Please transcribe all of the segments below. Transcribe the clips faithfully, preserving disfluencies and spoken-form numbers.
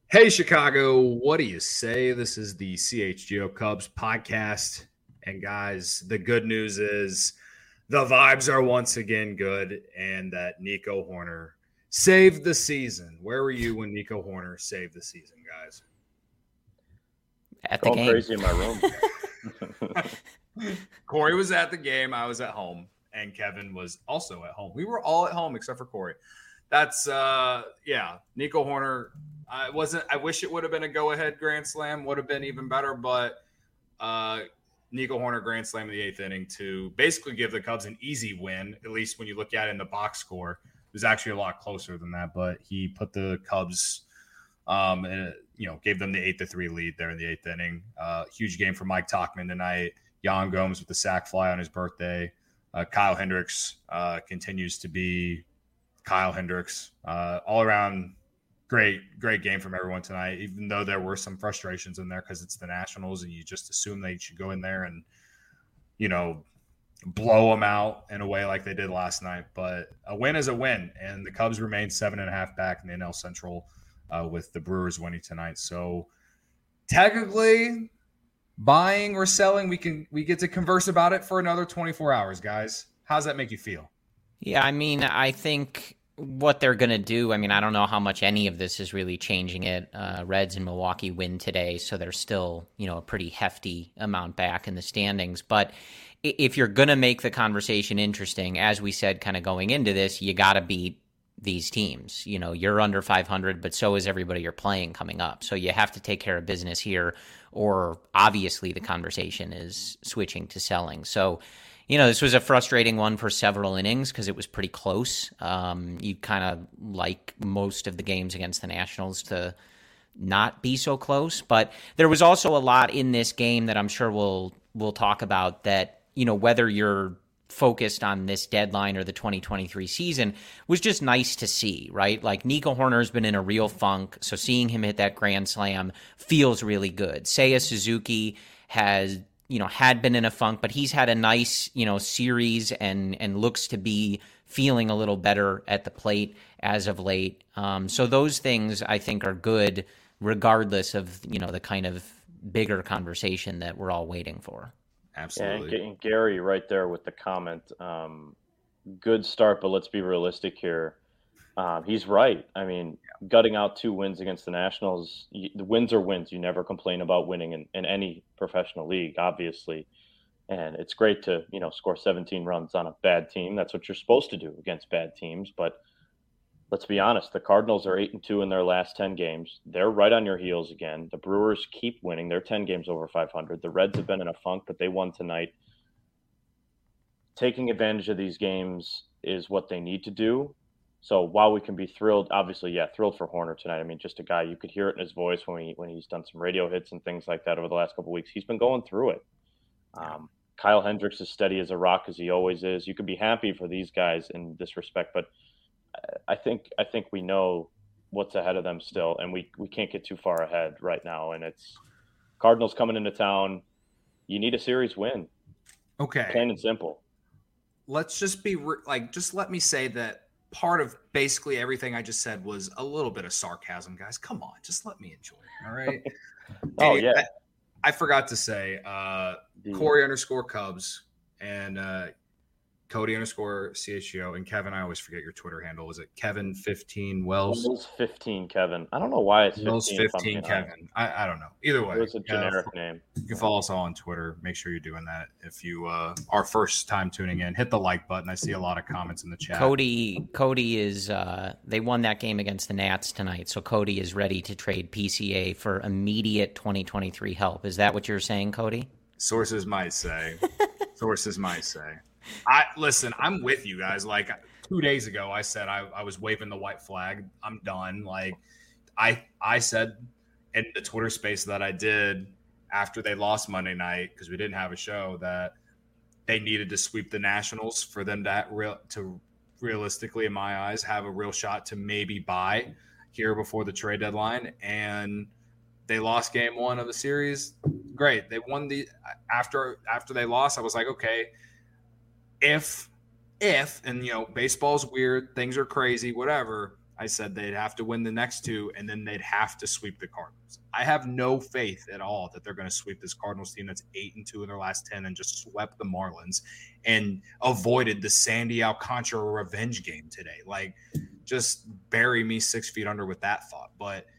Hey, Chicago, what do you say? This is the C H G O Cubs podcast. And guys, the good news is the vibes are once again good and that Nico Hoerner saved the season. Where were you when Nico Hoerner saved the season, guys? At the Going game. crazy in my room. Corey was at the game. I was at home. And Kevin was also at home. We were all at home except for Corey. That's, uh, yeah, Nico Hoerner. I wasn't. I wish it would have been a go-ahead grand slam. Would have been even better. But uh, Nico Hoerner grand slam in the eighth inning to basically give the Cubs an easy win. At least when you look at it in the box score, it was actually a lot closer than that. But he put the Cubs, um, in, you know, gave them the eight to three lead there in the eighth inning. Uh, huge game for Mike Tauchman tonight. Yan Gomes with the sac fly on his birthday. Uh, Kyle Hendricks uh, continues to be Kyle Hendricks. Uh, all around. Great, great game from everyone tonight, even though there were some frustrations in there because it's the Nationals and you just assume they should go in there and, you know, blow them out in a way like they did last night. But a win is a win, and the Cubs remain seven and a half back in the N L Central uh, with the Brewers winning tonight. So technically buying or selling, we can we get to converse about it for another twenty-four hours, guys. How's that make you feel? Yeah, I mean, I think what they're going to do, I mean, I don't know how much any of this is really changing it. Uh, Reds and Milwaukee win today, so they're still, you know, a pretty hefty amount back in the standings. But if you're going to make the conversation interesting, as we said kind of going into this, you got to beat these teams. You know, you're under five hundred, but so is everybody you're playing coming up. So you have to take care of business here, or obviously the conversation is switching to selling. So, you know, this was a frustrating one for several innings because it was pretty close. Um, you kind of like most of the games against the Nationals to not be so close. But there was also a lot in this game that I'm sure we'll we'll talk about that, you know, whether you're focused on this deadline or the twenty twenty-three season was just nice to see, right? Like Nico Hoerner's been in a real funk, so seeing him hit that grand slam feels really good. Seiya Suzuki has you know, had been in a funk, but he's had a nice, you know, series and and looks to be feeling a little better at the plate as of late. Um, so those things I think are good, regardless of, you know, the kind of bigger conversation that we're all waiting for. Absolutely. And, and Gary right there with the comment, um, good start, but let's be realistic here. Um, he's right. I mean, gutting out two wins against the Nationals, you, the wins are wins. You never complain about winning in, in any professional league, obviously. And it's great to, you know, score seventeen runs on a bad team. That's what you're supposed to do against bad teams. But let's be honest, the Cardinals are eight and two in their last ten games. They're right on your heels again. The Brewers keep winning. They're ten games over five hundred. The Reds have been in a funk, but they won tonight. Taking advantage of these games is what they need to do. So while we can be thrilled, obviously, yeah, thrilled for Hoerner tonight. I mean, just a guy, you could hear it in his voice when he when he's done some radio hits and things like that over the last couple of weeks. He's been going through it. Um, Kyle Hendricks is steady as a rock as he always is. You could be happy for these guys in this respect, but I think I think we know what's ahead of them still, and we we can't get too far ahead right now. And it's Cardinals coming into town. You need a series win. Okay. Plain and simple. Let's just be re- like, just let me say that part of basically everything I just said was a little bit of sarcasm, guys. Come on, just let me enjoy it. All right. oh hey, yeah. I, I forgot to say, uh, Corey underscore Cubs and uh, Cody underscore C H G O and Kevin. I always forget your Twitter handle. Is it Kevin fifteen Wells? Wells fifteen Kevin. I don't know why it's Wells fifteen. fifteen Kevin. I, I don't know. Either way, it's a generic uh, name. You can follow us all on Twitter. Make sure you're doing that if you uh, are first time tuning in. Hit the like button. I see a lot of comments in the chat. Cody, Cody is. Uh, they won that game against the Nats tonight, so Cody is ready to trade P C A for immediate twenty twenty-three help. Is that what you're saying, Cody? Sources might say. Sources might say. I listen. I'm with you guys. Like two days ago, I said I, I was waving the white flag. I'm done. Like I I said in the Twitter space that I did after they lost Monday night because we didn't have a show that they needed to sweep the Nationals for them to real to realistically, in my eyes, have a real shot to maybe buy here before the trade deadline. And they lost game one of the series. Great. They won the after after they lost. I was like, okay. If, if, and you know, baseball's weird, things are crazy, whatever. I said they'd have to win the next two, and then they'd have to sweep the Cardinals. I have no faith at all that they're going to sweep this Cardinals team that's eight and two in their last ten and just swept the Marlins and avoided the Sandy Alcantara revenge game today. Like, just bury me six feet under with that thought. But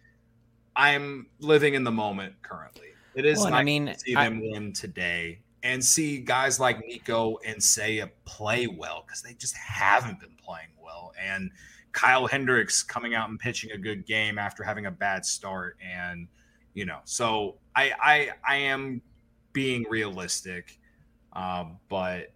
I'm living in the moment currently. It is well, nice I mean, to see I, them win today and see guys like Nico and Seiya play well, because they just haven't been playing well. And Kyle Hendricks coming out and pitching a good game after having a bad start. And, you know, so I I, I am being realistic, um, but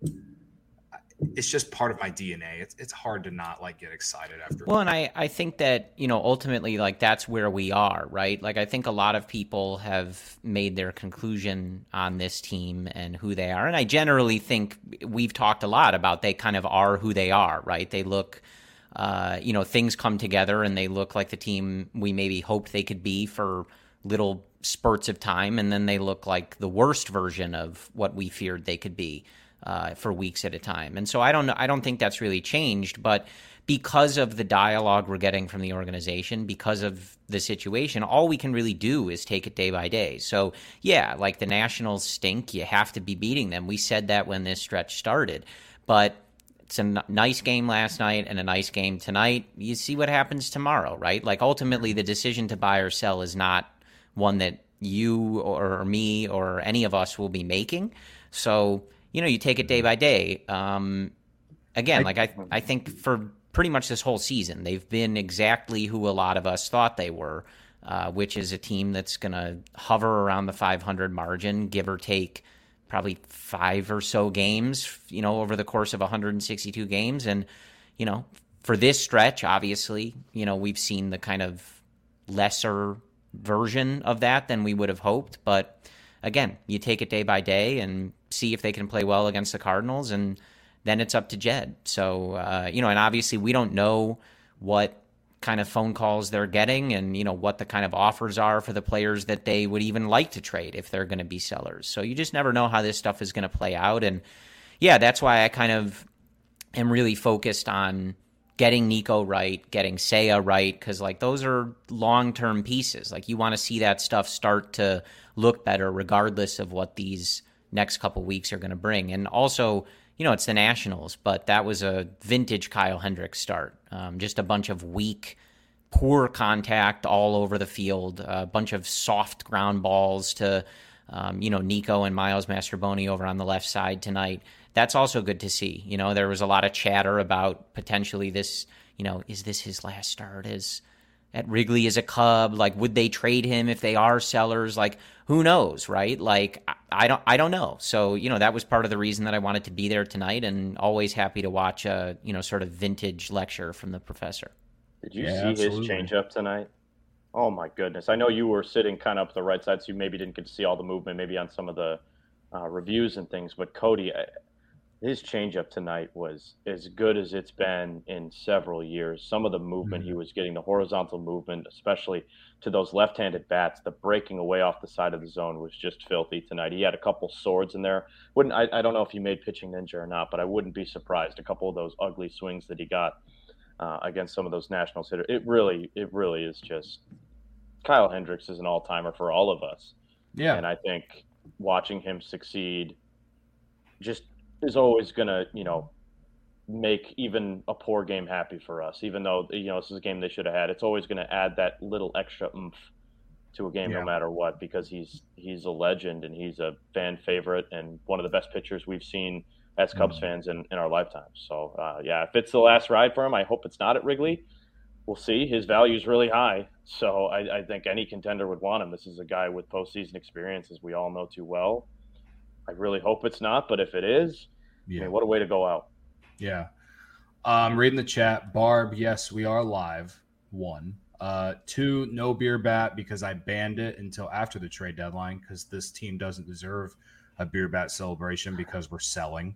it's just part of my D N A. It's it's hard to not like get excited after. Well, and I, I think that, you know, ultimately, like, that's where we are, right? Like, I think a lot of people have made their conclusion on this team and who they are. And I generally think we've talked a lot about they kind of are who they are, right? They look, uh, you know, things come together and they look like the team we maybe hoped they could be for little spurts of time. And then they look like the worst version of what we feared they could be. Uh, for weeks at a time. And so I don't know, I don't think that's really changed, but because of the dialogue we're getting from the organization, because of the situation, all we can really do is take it day by day. So yeah, like the Nationals stink. You have to be beating them. We said that when this stretch started, but it's a n- nice game last night and a nice game tonight. You see what happens tomorrow, right? Like ultimately the decision to buy or sell is not one that you or me or any of us will be making. So you know, you take it day by day. Um, again, like I, I think for pretty much this whole season, they've been exactly who a lot of us thought they were, uh, which is a team that's going to hover around the five hundred margin, give or take probably five or so games, you know, over the course of one hundred sixty-two games. And, you know, for this stretch, obviously, you know, we've seen the kind of lesser version of that than we would have hoped. But again, you take it day by day and see if they can play well against the Cardinals, and then it's up to Jed. So, uh, you know, and obviously we don't know what kind of phone calls they're getting and, you know, what the kind of offers are for the players that they would even like to trade if they're going to be sellers. So you just never know how this stuff is going to play out. And yeah, that's why I kind of am really focused on getting Nico right, getting Seiya right, because like those are long-term pieces. Like you want to see that stuff start to look better regardless of what these next couple weeks are going to bring. And also, you know, it's the Nationals, but that was a vintage Kyle Hendricks start. Um, just a bunch of weak, poor contact all over the field, a bunch of soft ground balls to, um, you know, Nico and Miles Mastrobuoni over on the left side tonight. That's also good to see. You know, there was a lot of chatter about potentially this, you know, is this his last start as at Wrigley as a Cub? Like, would they trade him if they are sellers? Like, who knows, right? Like, I, I don't, I don't know. So, you know, that was part of the reason that I wanted to be there tonight, and always happy to watch a, you know, sort of vintage lecture from the professor. Did you Yeah, see absolutely. his changeup tonight? Oh my goodness! I know you were sitting kind of up the right side, so you maybe didn't get to see all the movement, maybe on some of the uh, reviews and things. But Cody, his changeup tonight was as good as it's been in several years. Some of the movement mm-hmm. he was getting, the horizontal movement, especially to those left-handed bats, the breaking away off the side of the zone was just filthy tonight. He had a couple swords in there. Wouldn't I, I don't know if he made Pitching Ninja or not, but I wouldn't be surprised. A couple of those ugly swings that he got uh, against some of those Nationals hitters. It really, it really is just Kyle Hendricks is an all-timer for all of us. Yeah, and I think watching him succeed just is always going to, you know, make even a poor game happy for us, even though, you know, this is a game they should have had. It's always going to add that little extra oomph to a game yeah. no matter what, because he's he's a legend and he's a fan favorite and one of the best pitchers we've seen as Cubs mm-hmm. fans in, in our lifetimes. So, uh, yeah, if it's the last ride for him, I hope it's not at Wrigley. We'll see. His value is really high, so I, I think any contender would want him. This is a guy with postseason experience, as we all know too well. I really hope it's not, but if it is, yeah. I mean, what a way to go out. Yeah. Um, reading the chat, Barb, yes, we are live. One. Uh, two, no beer bat because I banned it until after the trade deadline because this team doesn't deserve a beer bat celebration because we're selling.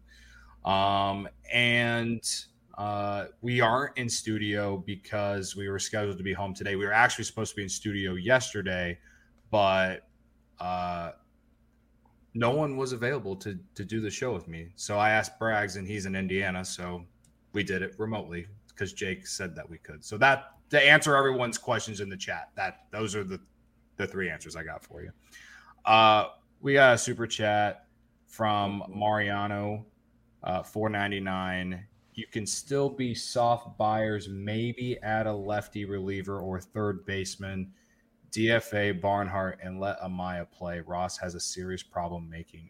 Um, and uh, we aren't in studio because we were scheduled to be home today. We were actually supposed to be in studio yesterday, but uh, no one was available to to do the show with me. So I asked Braggs, and he's in Indiana, so we did it remotely. because Jake said that we could. So that to answer everyone's questions in the chat, that those are the, the three answers I got for you. Uh, we got a super chat from Mariano, uh, four ninety-nine. You can still be soft buyers, maybe add a lefty reliever or third baseman, D F A Barnhart, and let Amaya play. Ross has a serious problem making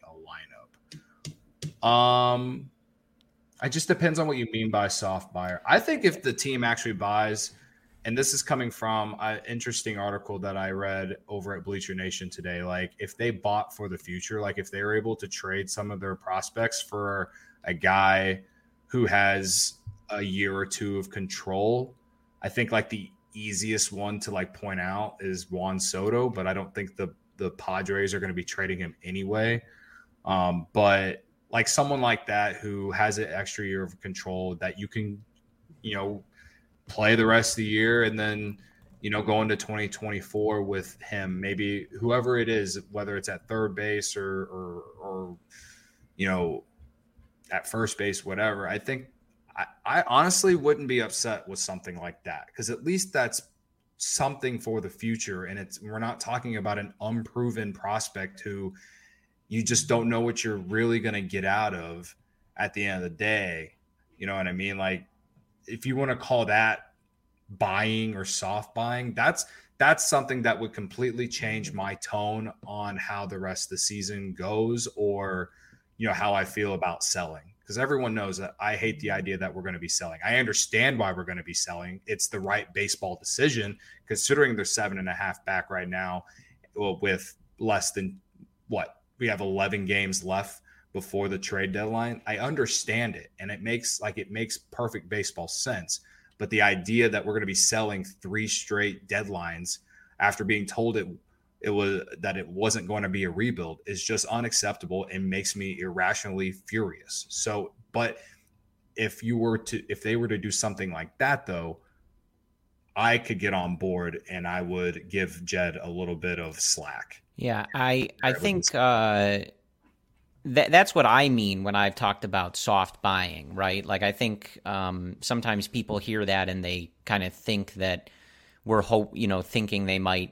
a lineup. Um, it just depends on what you mean by soft buyer. I think if the team actually buys, and this is coming from an interesting article that I read over at Bleacher Nation today, like if they bought for the future, like if they were able to trade some of their prospects for a guy who has a year or two of control, I think like the easiest one to like point out is Juan Soto, but I don't think the the Padres are going to be trading him anyway. Um, but like someone like that who has an extra year of control that you can, you know, play the rest of the year and then, you know, go into twenty twenty-four with him, maybe whoever it is, whether it's at third base or or, or you know, at first base, whatever. I think I, I honestly wouldn't be upset with something like that because at least that's something for the future. And it's we're not talking about an unproven prospect who you just don't know what you're really going to get out of at the end of the day. You know what I mean? Like if you want to call that buying or soft buying, that's that's something that would completely change my tone on how the rest of the season goes or you know, how I feel about selling, because everyone knows that I hate the idea that we're going to be selling. I understand why we're going to be selling. It's the right baseball decision, considering they're seven and a half back right now with less than what we have eleven games left before the trade deadline. I understand it. And it makes like, it makes perfect baseball sense. But the idea that we're going to be selling three straight deadlines after being told it it was that it wasn't going to be a rebuild is just unacceptable and makes me irrationally furious. So, but if you were to, if they were to do something like that though, I could get on board and I would give Jed a little bit of slack. Yeah. I, I think, uh, that that's what I mean when I've talked about soft buying, right? Like I think, um, sometimes people hear that and they kind of think that we're hope, you know, thinking they might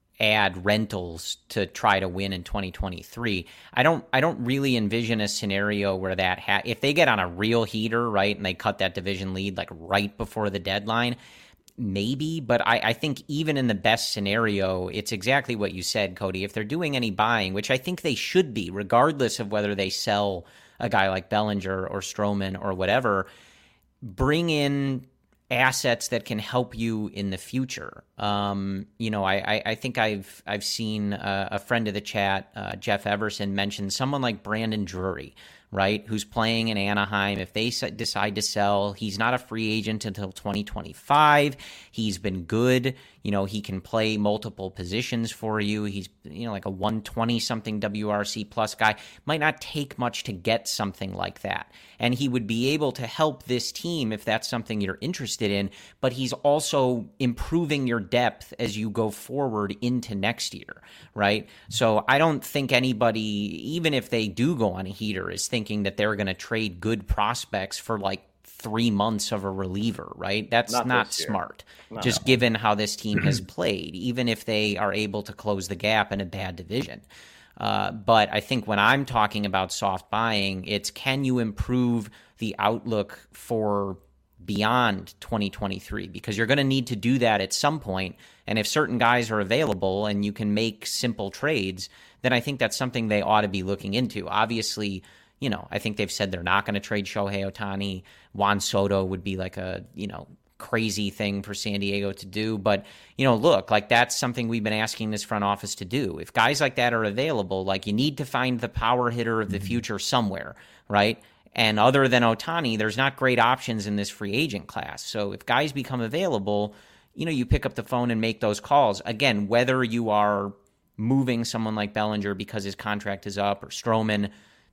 add rentals to try to win in twenty twenty-three. I don't I don't really envision a scenario where that ha- if they get on a real heater, right, and they cut that division lead like right before the deadline, maybe, but I, I think even in the best scenario, it's exactly what you said, Cody. If they're doing any buying, which I think they should be, regardless of whether they sell a guy like Bellinger or Stroman or whatever, bring in assets that can help you in the future. Um, you know, I, I, I think I've I've seen a, a friend of the chat, uh, Jeff Everson, mention someone like Brandon Drury, right, who's playing in Anaheim. If they decide to sell, he's not a free agent until twenty twenty-five. He's been good. You know, he can play multiple positions for you. He's, you know, like a one twenty something W R C plus guy. Might not take much to get something like that. And he would be able to help this team if that's something you're interested in, but he's also improving your depth as you go forward into next year, right? So I don't think anybody, even if they do go on a heater, is thinking that they're going to trade good prospects for like three months of a reliever, right? That's not, not smart, no. just given how this team has played, even if they are able to close the gap in a bad division. Uh, but I think when I'm talking about soft buying, it's can you improve the outlook for beyond twenty twenty-three? Because you're going to need to do that at some point. And if certain guys are available and you can make simple trades, then I think that's something they ought to be looking into. Obviously, you know, I think they've said they're not going to trade Shohei Ohtani. Juan Soto would be like a, you know, crazy thing for San Diego to do. But, you know, look, like that's something we've been asking this front office to do. If guys like that are available, like you need to find the power hitter of the future somewhere, right? And other than Ohtani, there's not great options in this free agent class. So if guys become available, you know, you pick up the phone and make those calls. Again, whether you are moving someone like Bellinger because his contract is up or Stroman,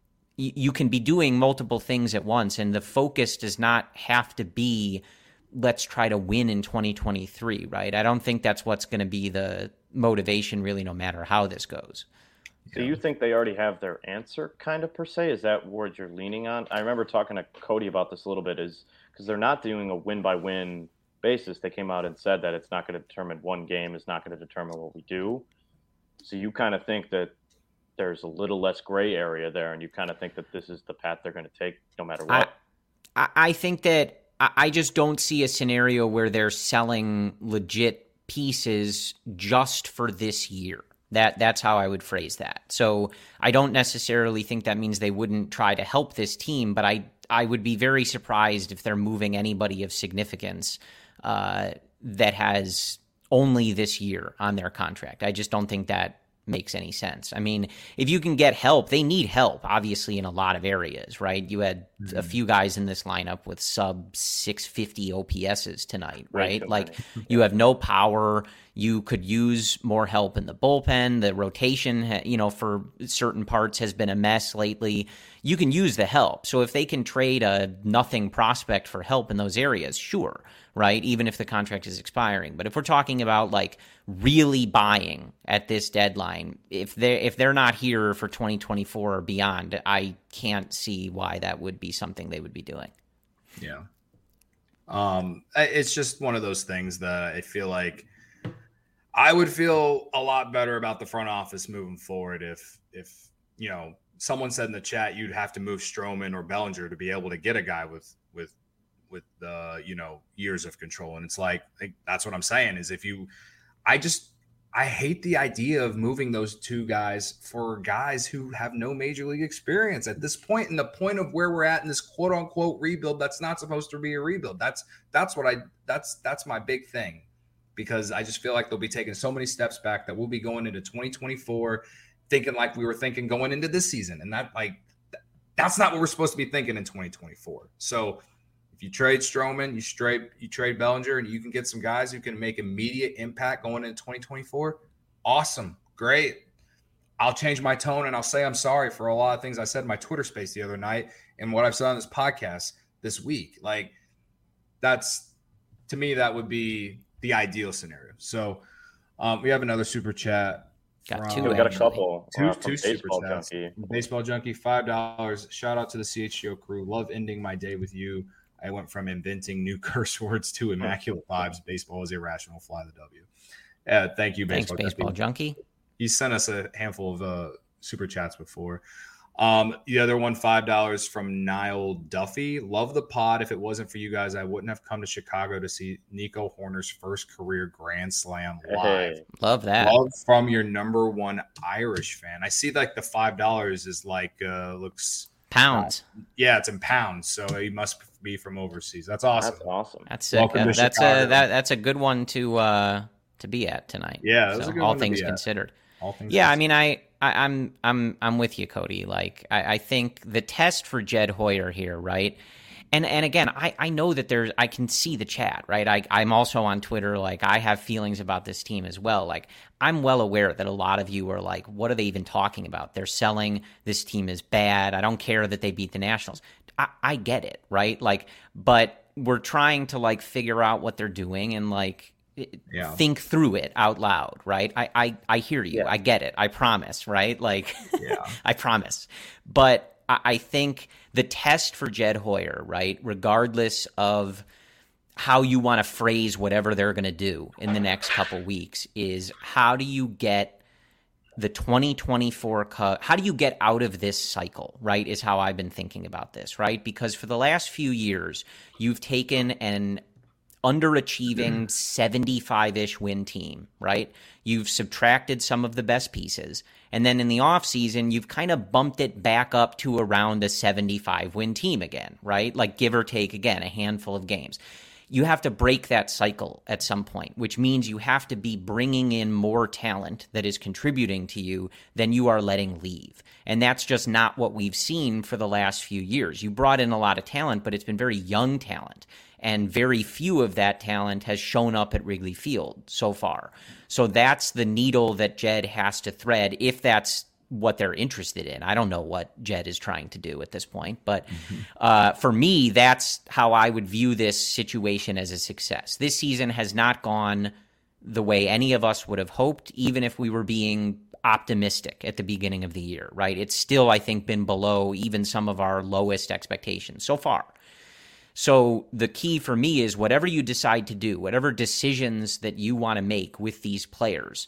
you can be doing multiple things at once, and the focus does not have to be let's try to win in twenty twenty-three, right? I don't think that's what's going to be the motivation really, no matter how this goes. So you think they already have their answer kind of per se? Is that word you're leaning on? I remember talking to Cody about this a little bit, is because they're not doing a win by win basis. They came out and said that it's not going to determine one game is not going to determine what we do. So you kind of think that there's a little less gray area there, and you kind of think that this is the path they're going to take no matter what. I, I think that I just don't see a scenario where they're selling legit pieces just for this year. That that's how I would phrase that. So I don't necessarily think that means they wouldn't try to help this team, but I I would be very surprised if they're moving anybody of significance uh, that has only this year on their contract. I just don't think that makes any sense. I mean, if you can get help, they need help, obviously, in a lot of areas, right? You had mm-hmm. a few guys in this lineup with sub six fifty O P S's tonight, right? right? Like, you have no power. You could use more help in the bullpen. The rotation, you know, for certain parts has been a mess lately. You can use the help. So if they can trade a nothing prospect for help in those areas, sure, right? Even if the contract is expiring. But if we're talking about like really buying at this deadline, if they if they're not here for twenty twenty-four or beyond, I can't see why that would be something they would be doing. Yeah. Um, it's just one of those things that I feel like I would feel a lot better about the front office moving forward if, if you know, someone said in the chat you'd have to move Stroman or Bellinger to be able to get a guy with with with the uh, you know years of control, and it's like, like that's what I'm saying is if you, I just I hate the idea of moving those two guys for guys who have no major league experience at this point, and the point of where we're at in this quote unquote rebuild that's not supposed to be a rebuild. That's that's what I that's that's my big thing. Because I just feel like they'll be taking so many steps back that we'll be going into twenty twenty-four thinking like we were thinking going into this season. And that like that's not what we're supposed to be thinking in twenty twenty-four. So if you trade Stroman, you trade you trade Bellinger, and you can get some guys who can make immediate impact going into twenty twenty-four, awesome, great. I'll change my tone and I'll say I'm sorry for a lot of things I said in my Twitter space the other night and what I've said on this podcast this week. Like that's, to me, that would be the ideal scenario. So um, we have another super chat. Got two. We got a couple. Two, uh, two super chats. Junkie. Baseball Junkie, five dollars. Shout out to the C H G O crew. Love ending my day with you. I went from inventing new curse words to immaculate vibes. Baseball is irrational. Fly the W. Yeah, thank you, Baseball, Thanks, Baseball Junkie. He sent us a handful of uh, super chats before. Um, the other one, five dollars from Niall Duffy. Love the pod. If it wasn't for you guys, I wouldn't have come to Chicago to see Nico Hoerner's first career Grand Slam live. Hey. Love that. Love from your number one Irish fan. I see like the five dollars is like uh, looks pounds. Uh, yeah, it's in pounds, so he must be from overseas. That's awesome. That's awesome. That's sick. Uh, that's Chicago. a that, that's a good one to uh, to be at tonight. Yeah, that's so, a good all one things to be considered. At. All things yeah, considered. I mean, I. I, I'm I'm I'm with you, Cody. Like I, I think the test for Jed Hoyer here, right? And and again, I, I know that there's I can see the chat, right? I I'm also on Twitter. Like I have feelings about this team as well. Like I'm well aware that a lot of you are like, what are they even talking about? They're selling this team is bad. I don't care that they beat the Nationals. I, I get it, right? Like, but we're trying to like figure out what they're doing and like. Yeah. Think through it out loud, right? I I, I hear you. Yeah. I get it. I promise, right? Like, yeah. I promise. But I, I think the test for Jed Hoyer, right, regardless of how you want to phrase whatever they're going to do in the next couple weeks, is how do you get the twenty twenty-four cut? How do you get out of this cycle, right, is how I've been thinking about this, right? Because for the last few years, you've taken an underachieving seventy-five-ish win team, right? You've subtracted some of the best pieces. And then in the offseason, you've kind of bumped it back up to around a seventy-five win team again, right? Like give or take, again, a handful of games. You have to break that cycle at some point, which means you have to be bringing in more talent that is contributing to you than you are letting leave. And that's just not what we've seen for the last few years. You brought in a lot of talent, but it's been very young talent. And very few of that talent has shown up at Wrigley Field so far. So that's the needle that Jed has to thread if that's what they're interested in. I don't know what Jed is trying to do at this point. But mm-hmm. uh, for me, that's how I would view this situation as a success. This season has not gone the way any of us would have hoped, even if we were being optimistic at the beginning of the year, right? It's still, I think, been below even some of our lowest expectations so far. So the key for me is whatever you decide to do, whatever decisions that you want to make with these players,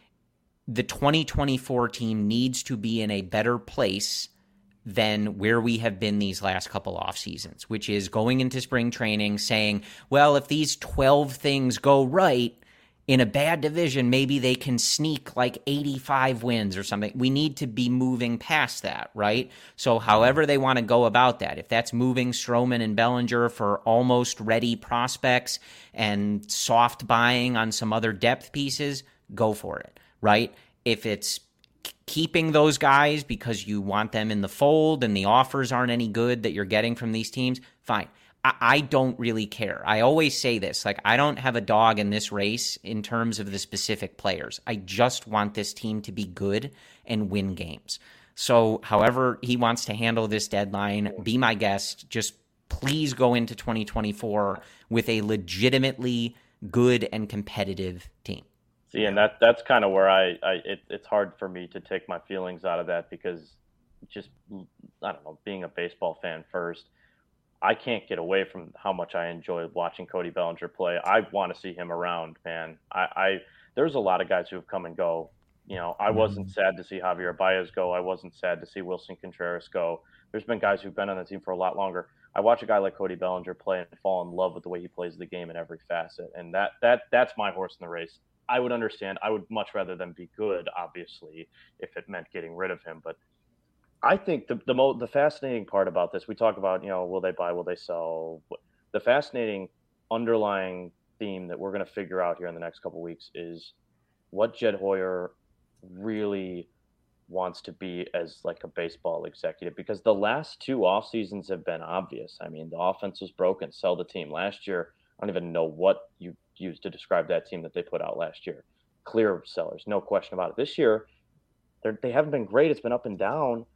the twenty twenty-four team needs to be in a better place than where we have been these last couple off seasons, which is going into spring training saying, well, if these twelve things go right in a bad division, maybe they can sneak like eighty-five wins or something. We need to be moving past that, right? So however they want to go about that, if that's moving Stroman and Bellinger for almost ready prospects and soft buying on some other depth pieces, go for it, right? If it's keeping those guys because you want them in the fold and the offers aren't any good that you're getting from these teams, fine. I, I don't really care. I always say this, like, I don't have a dog in this race in terms of the specific players. I just want this team to be good and win games. So however he wants to handle this deadline, be my guest. Just please go into twenty twenty-four with a legitimately good and competitive team. See, and that that's kind of where I, I it, it's hard for me to take my feelings out of that because just, I don't know, being a baseball fan first, I can't get away from how much I enjoy watching Cody Bellinger play. I want to see him around, man. I, I there's a lot of guys who have come and go. You know, I wasn't sad to see Javier Baez go. I wasn't sad to see Wilson Contreras go. There's been guys who've been on the team for a lot longer. I watch a guy like Cody Bellinger play and fall in love with the way he plays the game in every facet, and that that that's my horse in the race. I would understand. I would much rather than be good, obviously, if it meant getting rid of him. But I think the the, mo- the fascinating part about this, we talk about, you know, will they buy, will they sell? The fascinating underlying theme that we're going to figure out here in the next couple of weeks is what Jed Hoyer really wants to be as like a baseball executive, because the last two off seasons have been obvious. I mean, the offense was broken, sell the team. Last year, I don't even know what you used to describe that team that they put out last year. Clear sellers, no question about it. This year, they haven't been great. It's been up and down,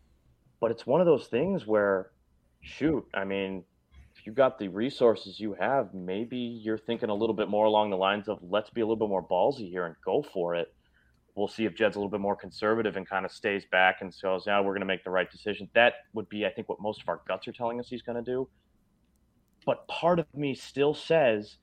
but it's one of those things where, shoot, I mean, if you got the resources you have, maybe you're thinking a little bit more along the lines of let's be a little bit more ballsy here and go for it. We'll see if Jed's a little bit more conservative and kind of stays back and says, yeah, we're going to make the right decision. That would be, I think, what most of our guts are telling us he's going to do. But part of me still says,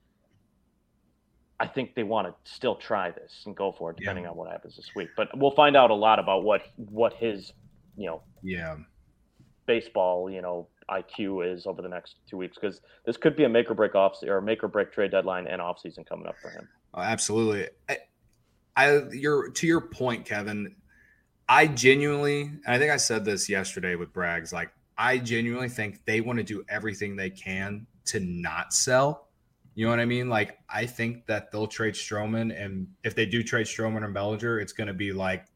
I think they want to still try this and go for it, depending yeah. on what happens this week. But we'll find out a lot about what what his, you know, yeah, baseball, you know, I Q is over the next two weeks, because this could be a make or break off or make or break trade deadline and off season coming up for him. Oh, absolutely. I, I, you're to your point, Kevin. I genuinely, I think I said this yesterday with Braggs, like I genuinely think they want to do everything they can to not sell. You know what I mean? Like, I think that they'll trade Stroman, and if they do trade Stroman and Bellinger, it's going to be like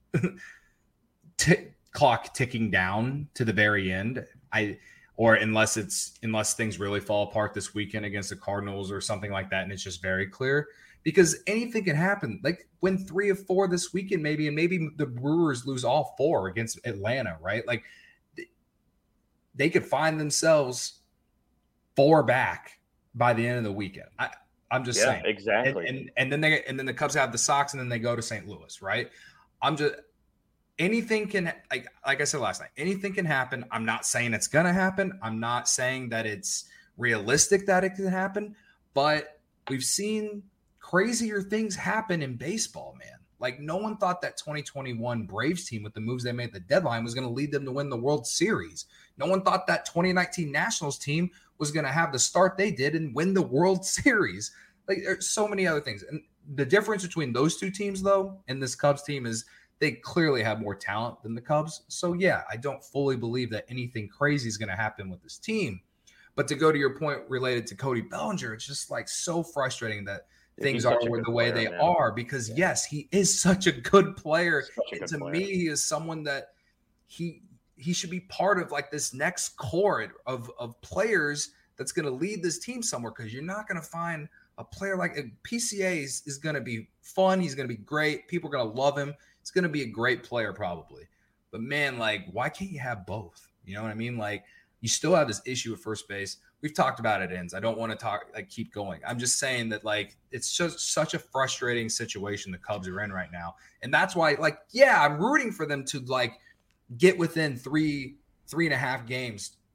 t- clock ticking down to the very end. I or unless it's unless things really fall apart this weekend against the Cardinals or something like that, and it's just very clear, because anything can happen. Like win three of four this weekend, maybe, and maybe the Brewers lose all four against Atlanta, right? Like they could find themselves four back by the end of the weekend. I, I'm just yeah, saying. Exactly. And, and and then they and then the Cubs have the Sox, and then they go to Saint Louis, right? I'm just anything can like like I said last night, anything can happen. I'm not saying it's gonna happen. I'm not saying that it's realistic that it can happen, but we've seen crazier things happen in baseball, man. Like no one thought that twenty twenty-one Braves team with the moves they made at the deadline was going to lead them to win the World Series. No one thought that twenty nineteen Nationals team was going to have the start they did and win the World Series. Like there's so many other things. And the difference between those two teams, though, and this Cubs team is they clearly have more talent than the Cubs. So, yeah, I don't fully believe that anything crazy is going to happen with this team. But to go to your point related to Cody Bellinger, it's just like so frustrating that things are the way they man. are, because, yeah. yes, he is such a good player. A good to player. me, he is someone that he he should be part of like this next core of, of players that's going to lead this team somewhere, because you're not going to find a player like P C A is, is going to be fun. He's going to be great. People are going to love him. He's going to be a great player probably. But, man, like, why can't you have both? You know what I mean? Like, you still have this issue at first base. We've talked about it, Ends. I don't want to talk, like, keep going. I'm just saying that, like, it's just such a frustrating situation the Cubs are in right now. And that's why, like, yeah, I'm rooting for them to, like, get within three, three and a half games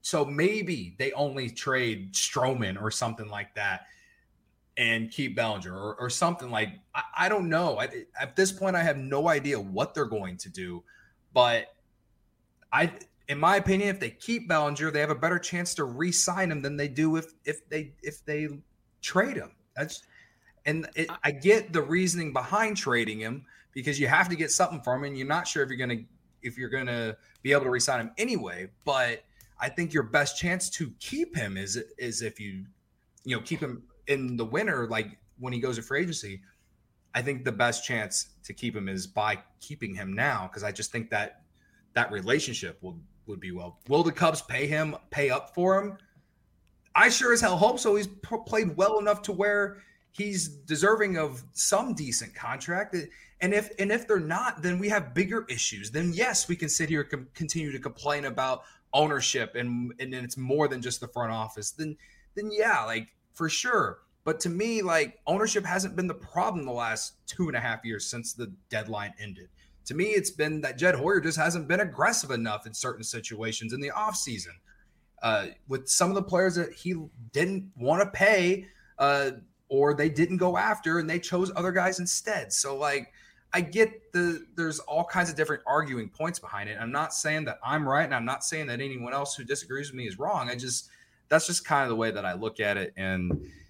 so maybe they only trade Stroman or something like that and keep Bellinger or, or something like, I, I don't know. I, at this point, I have no idea what they're going to do, but I, in my opinion, if they keep Bellinger, they have a better chance to re-sign him than they do if, if they, if they trade him. That's, and it, I get the reasoning behind trading him because you have to get something from him and you're not sure if you're going to, if you're going to be able to re-sign him anyway, but I think your best chance to keep him is, is if you, you know, keep him in the winter, like when he goes to free agency. I think the best chance to keep him is by keeping him now. Cause I just think that that relationship will, would be well. Will the Cubs pay him, pay up for him? I sure as hell hope so. He's p- played well enough to where he's deserving of some decent contract. And if, and if they're not, then we have bigger issues. Then yes, we can sit here and com- continue to complain about ownership and, and then it's more than just the front office. Then, then yeah, like for sure. But to me, like ownership hasn't been the problem the last two and a half years since the deadline ended. To me, it's been that Jed Hoyer just hasn't been aggressive enough in certain situations in the offseason. Uh, with some of the players that he didn't want to pay uh, or they didn't go after and they chose other guys instead. So like, I get the, there's all kinds of different arguing points behind it. I'm not saying that I'm right. And I'm not saying that anyone else who disagrees with me is wrong. I just, that's just kind of the way that I look at it. And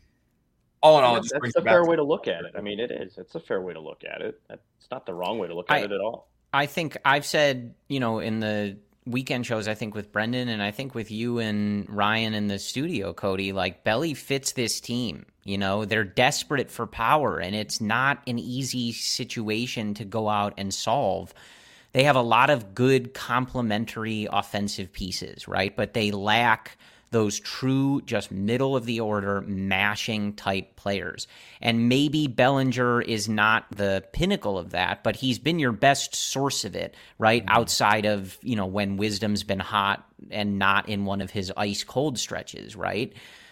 all in all, yeah, it just that's a fair way to look at it. I mean, it is, it's a fair way to look at it. It's not the wrong way to look at I, it at all. I think I've said, you know, in the weekend shows, I think with Brendan and I think with you and Ryan in the studio, Cody, like Belly fits this team. You know, they're desperate for power and it's not an easy situation to go out and solve. They have a lot of good complementary offensive pieces, right? But they lack those true, just middle of the order, mashing type players. And maybe Bellinger is not the pinnacle of that, but he's been your best source of it, right? Mm-hmm. Outside of, you know, when Wisdom's been hot and not in one of his ice cold stretches, right?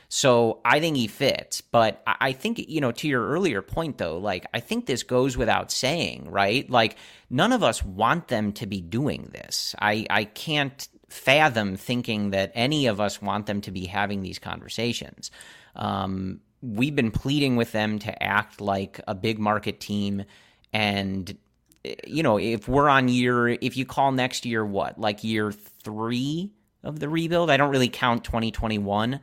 So I think he fits. But I think, you know, to your earlier point, though, like, I think this goes without saying, right? Like, none of us want them to be doing this. I, I can't fathom thinking that any of us want them to be having these conversations. Um, we've been pleading with them to act like a big market team. And, you know, if we're on year, if you call next year, what, like year three of the rebuild? I don't really count twenty twenty-one.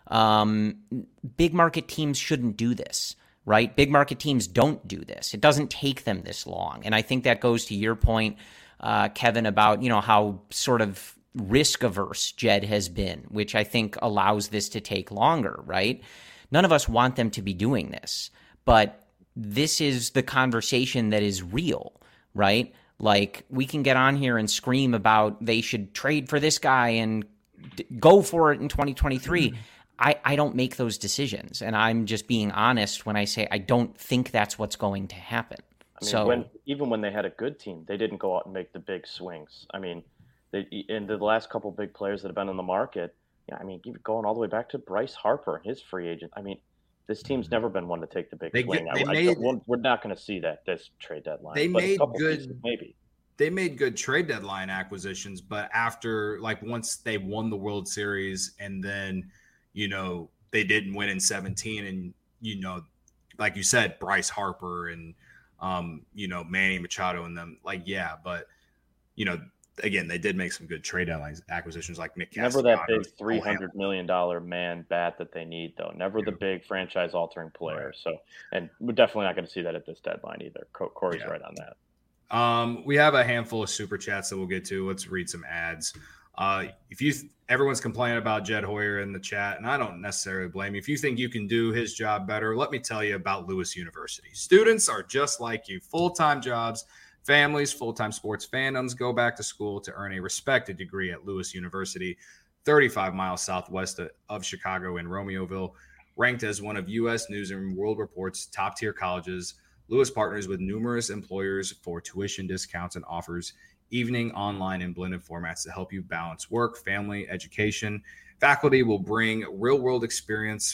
Um, big market teams shouldn't do this, right? Big market teams don't do this. It doesn't take them this long. And I think that goes to your point, uh, Kevin, about, you know, how sort of risk averse Jed has been, which I think allows this to take longer, right? None of us want them to be doing this, but this is the conversation that is real, right? Like, we can get on here and scream about they should trade for this guy and d- go for it in twenty twenty-three. Mm-hmm. I, I don't make those decisions, and I'm just being honest when I say I don't think that's what's going to happen. I mean, so when, even when they had a good team, they didn't go out and make the big swings. I mean, They, in the last couple of big players that have been on the market, yeah, I mean, going all the way back to Bryce Harper, his free agent. I mean, this team's never been one to take the big they swing. Get, they I, made, I we're not going to see that this trade deadline. They but made a couple good, pieces, maybe. They made good trade deadline acquisitions, but after, like, once they won the World Series and then, you know, they didn't win in seventeen, and, you know, like you said, Bryce Harper and, um, you know, Manny Machado and them, like, yeah, but, you know, again, they did make some good trade deadline acquisitions, like Nick Never that big three hundred million dollars man bat that they need, though. Never yeah. the big franchise-altering player. Right. So, and we're definitely not going to see that at this deadline either. Corey's yeah. right on that. Um, we have a handful of super chats that we'll get to. Let's read some ads. Uh, if you everyone's complaining about Jed Hoyer in the chat, and I don't necessarily blame you. If you think you can do his job better, let me tell you about Lewis University. Students are just like you, full-time jobs. Families, full-time sports fandoms go back to school to earn a respected degree at Lewis University, thirty-five miles southwest of Chicago in Romeoville. Ranked as one of U S News and World Report's top-tier colleges, Lewis partners with numerous employers for tuition discounts and offers evening, online, and blended formats to help you balance work, family, education. Faculty will bring real-world experience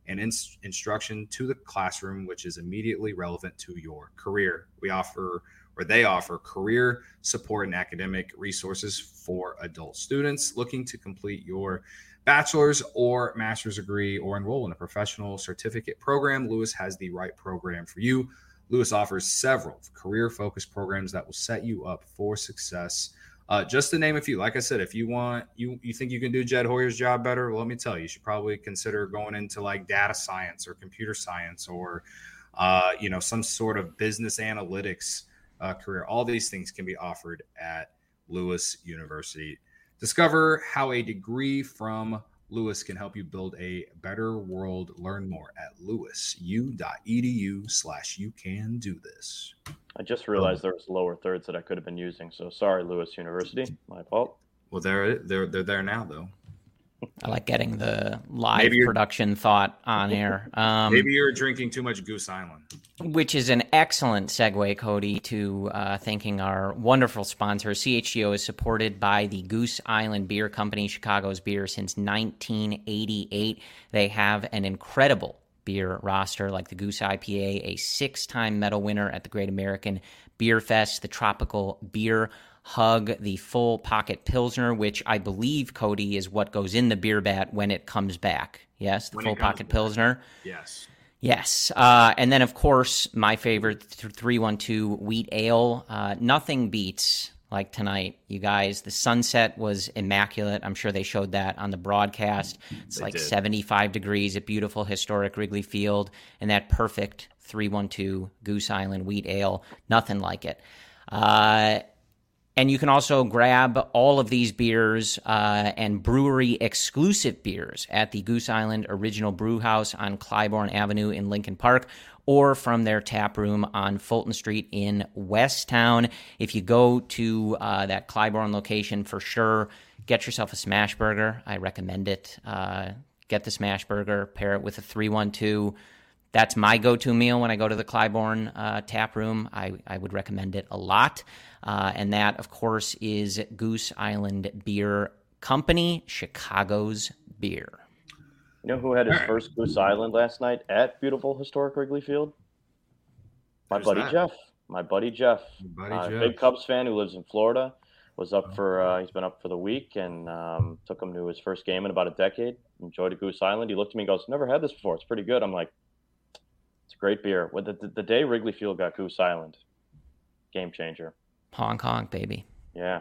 and in- instruction to the classroom, which is immediately relevant to your career. We offer, or they offer, career support and academic resources for adult students looking to complete your bachelor's or master's degree or enroll in a professional certificate program. Lewis has the right program for you. Lewis offers several career-focused programs that will set you up for success. Uh, just to name a few, like I said, if you want, you you think you can do Jed Hoyer's job better, well, let me tell you, you should probably consider going into like data science or computer science or, uh, you know, some sort of business analytics uh, career. All these things can be offered at Lewis University. Discover how a degree from Lewis can help you build a better world. Learn more at lewisu.edu slash you can do this. I just realized there was lower thirds that I could have been using. So sorry, Lewis University. My fault. Well, they're they're they're there now, though. I like getting the live production thought on air. Um, maybe you're drinking too much Goose Island. Which is an excellent segue, Cody, to uh, thanking our wonderful sponsor. C H G O is supported by the Goose Island Beer Company, Chicago's beer since nineteen eighty-eight. They have an incredible beer roster like the Goose I P A, a six-time medal winner at the Great American Beer Fest, the Tropical Beer Hug, the Full Pocket Pilsner, which I believe, Cody, is what goes in the beer vat when it comes back. Yes, the when Full Pocket back. Pilsner. Yes. Yes. Uh, and then, of course, my favorite, three one two Wheat Ale. Uh, nothing beats, like tonight, you guys. The sunset was immaculate. I'm sure they showed that on the broadcast. It's they like did. seventy-five degrees at beautiful, historic Wrigley Field. And that perfect three one two Goose Island Wheat Ale. Nothing like it. Uh And you can also grab all of these beers uh, and brewery-exclusive beers at the Goose Island Original Brew House on Clybourne Avenue in Lincoln Park, or from their tap room on Fulton Street in Westtown. If you go to uh, that Clybourne location, for sure, get yourself a smash burger. I recommend it. Uh, get the smash burger, pair it with a three one two. That's my go-to meal when I go to the Clybourne uh, tap room. I, I would recommend it a lot. Uh, and that, of course, is Goose Island Beer Company, Chicago's beer. You know who had his first Goose Island last night at beautiful historic Wrigley Field? My Who's buddy that? Jeff. My buddy Jeff. Buddy uh, Jeff. Big Cubs fan who lives in Florida. Was up for, uh, he's been up for the week and um, took him to his first game in about a decade. Enjoyed a Goose Island. He looked at me and goes, never had this before. It's pretty good. I'm like, it's a great beer. With the, the, the day Wrigley Field got Goose Island, game changer. Hong Kong, baby. Yeah.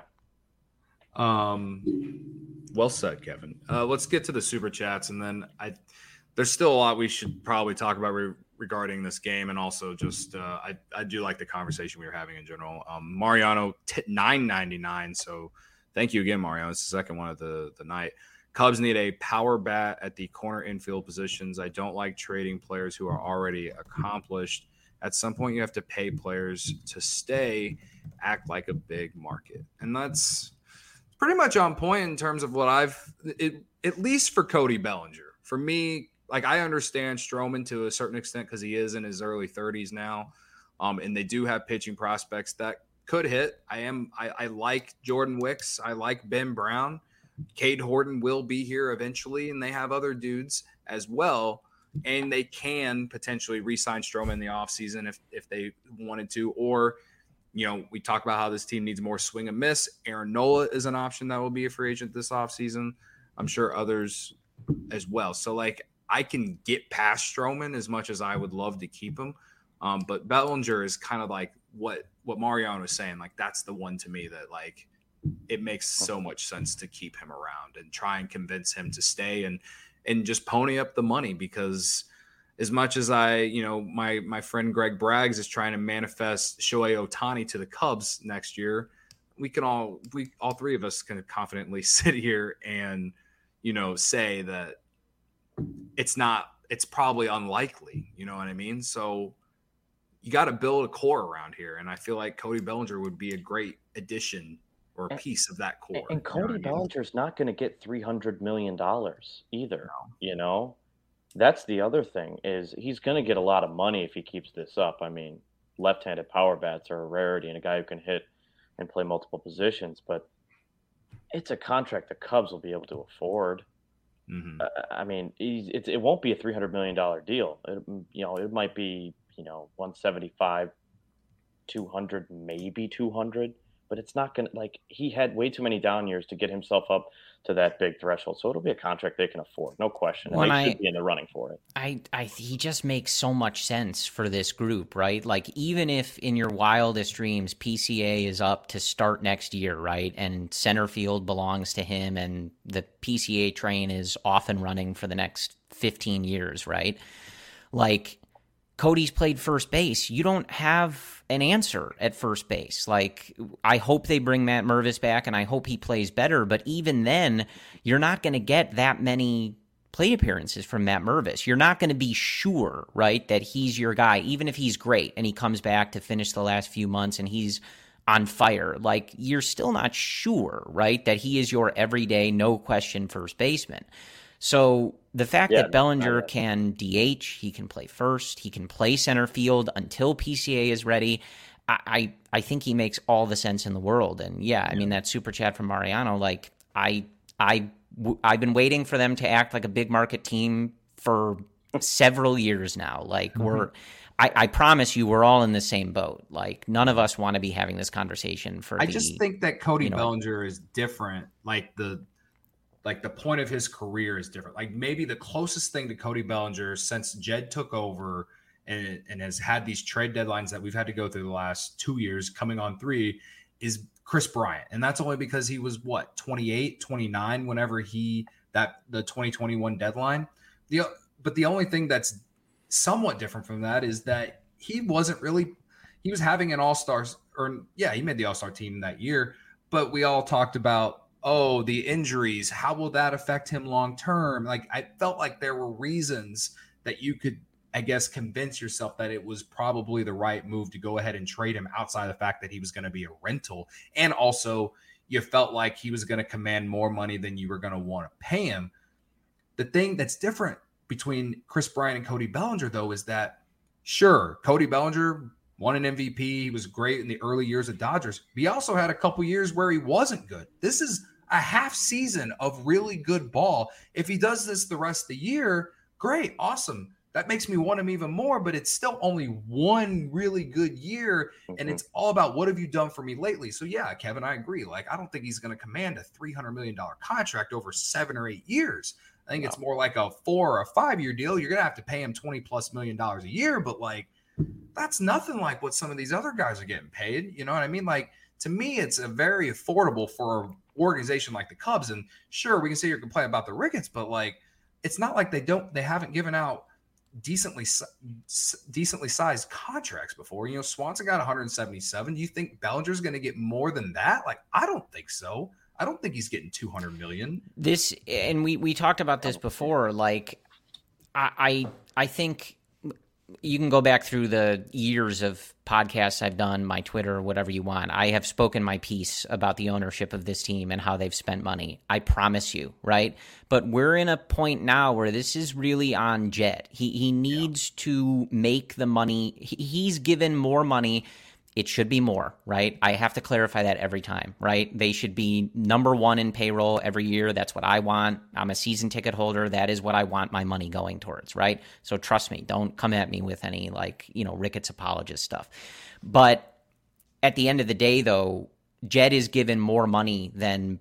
Um, well said, Kevin. Uh, let's get to the super chats, and then I. There's still a lot we should probably talk about re- regarding this game, and also just uh, I I do like the conversation we were having in general. Um, Mariano t- nine ninety-nine. So thank you again, Mariano. It's the second one of the the night. Cubs need a power bat at the corner infield positions. I don't like trading players who are already accomplished. At some point, you have to pay players to stay, act like a big market. And that's pretty much on point in terms of what I've it, – at least for Cody Bellinger. For me, like I understand Stroman to a certain extent because he is in his early thirties now, um, and they do have pitching prospects that could hit. I am I, I like Jordan Wicks. I like Ben Brown. Cade Horton will be here eventually, and they have other dudes as well. And they can potentially re-sign Stroman in the offseason if if they wanted to. Or, you know, we talk about how this team needs more swing and miss. Aaron Nola is an option that will be a free agent this offseason. I'm sure others as well. So, like, I can get past Stroman as much as I would love to keep him. Um, but Bellinger is kind of like what, what Mariano was saying. Like, that's the one to me that, like, it makes so much sense to keep him around and try and convince him to stay and and just pony up the money, because as much as I, you know, my my friend Greg Braggs is trying to manifest Shohei Ohtani to the Cubs next year, we can all we all three of us can confidently sit here and, you know, say that it's not it's probably unlikely, you know what I mean? So you got to build a core around here, and I feel like Cody Bellinger would be a great addition or a piece of that core. And Cody you know Bellinger's I mean? not going to get three hundred million dollars either, no. you know? That's the other thing is he's going to get a lot of money if he keeps this up. I mean, left-handed power bats are a rarity and a guy who can hit and play multiple positions, but it's a contract the Cubs will be able to afford. Mm-hmm. Uh, I mean, he's, it, it won't be a three hundred million dollars deal. It, you know, it might be, you know, one seventy-five, two hundred, maybe two hundred, but it's not going to, like, he had way too many down years to get himself up to that big threshold. So it'll be a contract they can afford, no question. And When they I, should be in the running for it. I, I, he just makes so much sense for this group, right? Like, even if in your wildest dreams, P C A is up to start next year, right? And center field belongs to him and the P C A train is off and running for the next fifteen years, right? Like, Cody's played first base. You don't have an answer at first base. Like, I hope they bring Matt Mervis back, and I hope he plays better. But even then, you're not going to get that many plate appearances from Matt Mervis. You're not going to be sure, right, that he's your guy, even if he's great and he comes back to finish the last few months and he's on fire. Like, you're still not sure, right, that he is your everyday, no question first baseman. So the fact Yeah, that Bellinger I- can D H, he can play first, he can play center field until P C A is ready, I, I, I think he makes all the sense in the world. And yeah, I mean, that super chat from Mariano, like, I, I, w- I've been waiting for them to act like a big market team for several years now. Like, mm-hmm. we're, I, I promise you, we're all in the same boat. Like, none of us want to be having this conversation for I the, just think that Cody you know, Bellinger is different. Like the, like the point of his career is different. Like maybe the closest thing to Cody Bellinger since Jed took over and, and has had these trade deadlines that we've had to go through the last two years coming on three is Chris Bryant. And that's only because he was what, twenty-eight, twenty-nine, whenever he, that the twenty twenty-one deadline. The, but the only thing that's somewhat different from that is that he wasn't really, he was having an all-star or yeah, he made the all-star team that year, but we all talked about, oh, the injuries, how will that affect him long term? Like, I felt like there were reasons that you could, I guess, convince yourself that it was probably the right move to go ahead and trade him outside of the fact that he was going to be a rental. And also, you felt like he was going to command more money than you were going to want to pay him. The thing that's different between Chris Bryant and Cody Bellinger, though, is that, sure, Cody Bellinger won an M V P. He was great in the early years of Dodgers. But he also had a couple years where he wasn't good. This is a half season of really good ball. If he does this the rest of the year, great, awesome. That makes me want him even more, but it's still only one really good year, and mm-hmm. it's all about what have you done for me lately. So, yeah, Kevin, I agree. Like, I don't think he's going to command a three hundred million dollars contract over seven or eight years. I think no. it's more like a four or a five-year deal. You're going to have to pay him twenty-plus million dollars a year, but, like, that's nothing like what some of these other guys are getting paid. You know what I mean? Like, to me, it's a very affordable for an organization like the Cubs. And sure, we can say you're complaining about the Ricketts, but like, it's not like they don't, they haven't given out decently, decently sized contracts before. You know, Swanson got one hundred seventy-seven. Do you think Bellinger's going to get more than that? Like, I don't think so. I don't think he's getting two hundred million. This, and we, we talked about this before. Like, I, I, I think, you can go back through the years of podcasts I've done, my Twitter, whatever you want. I have spoken my piece about the ownership of this team and how they've spent money. I promise you, right? But we're in a point now where this is really on Jed. He he needs yeah. to make the money. He, he's given more money. It should be more, right? I have to clarify that every time, right? They should be number one in payroll every year. That's what I want. I'm a season ticket holder. That is what I want my money going towards, right? So trust me, don't come at me with any like, you know, Ricketts apologist stuff. But at the end of the day, though, Jed is given more money than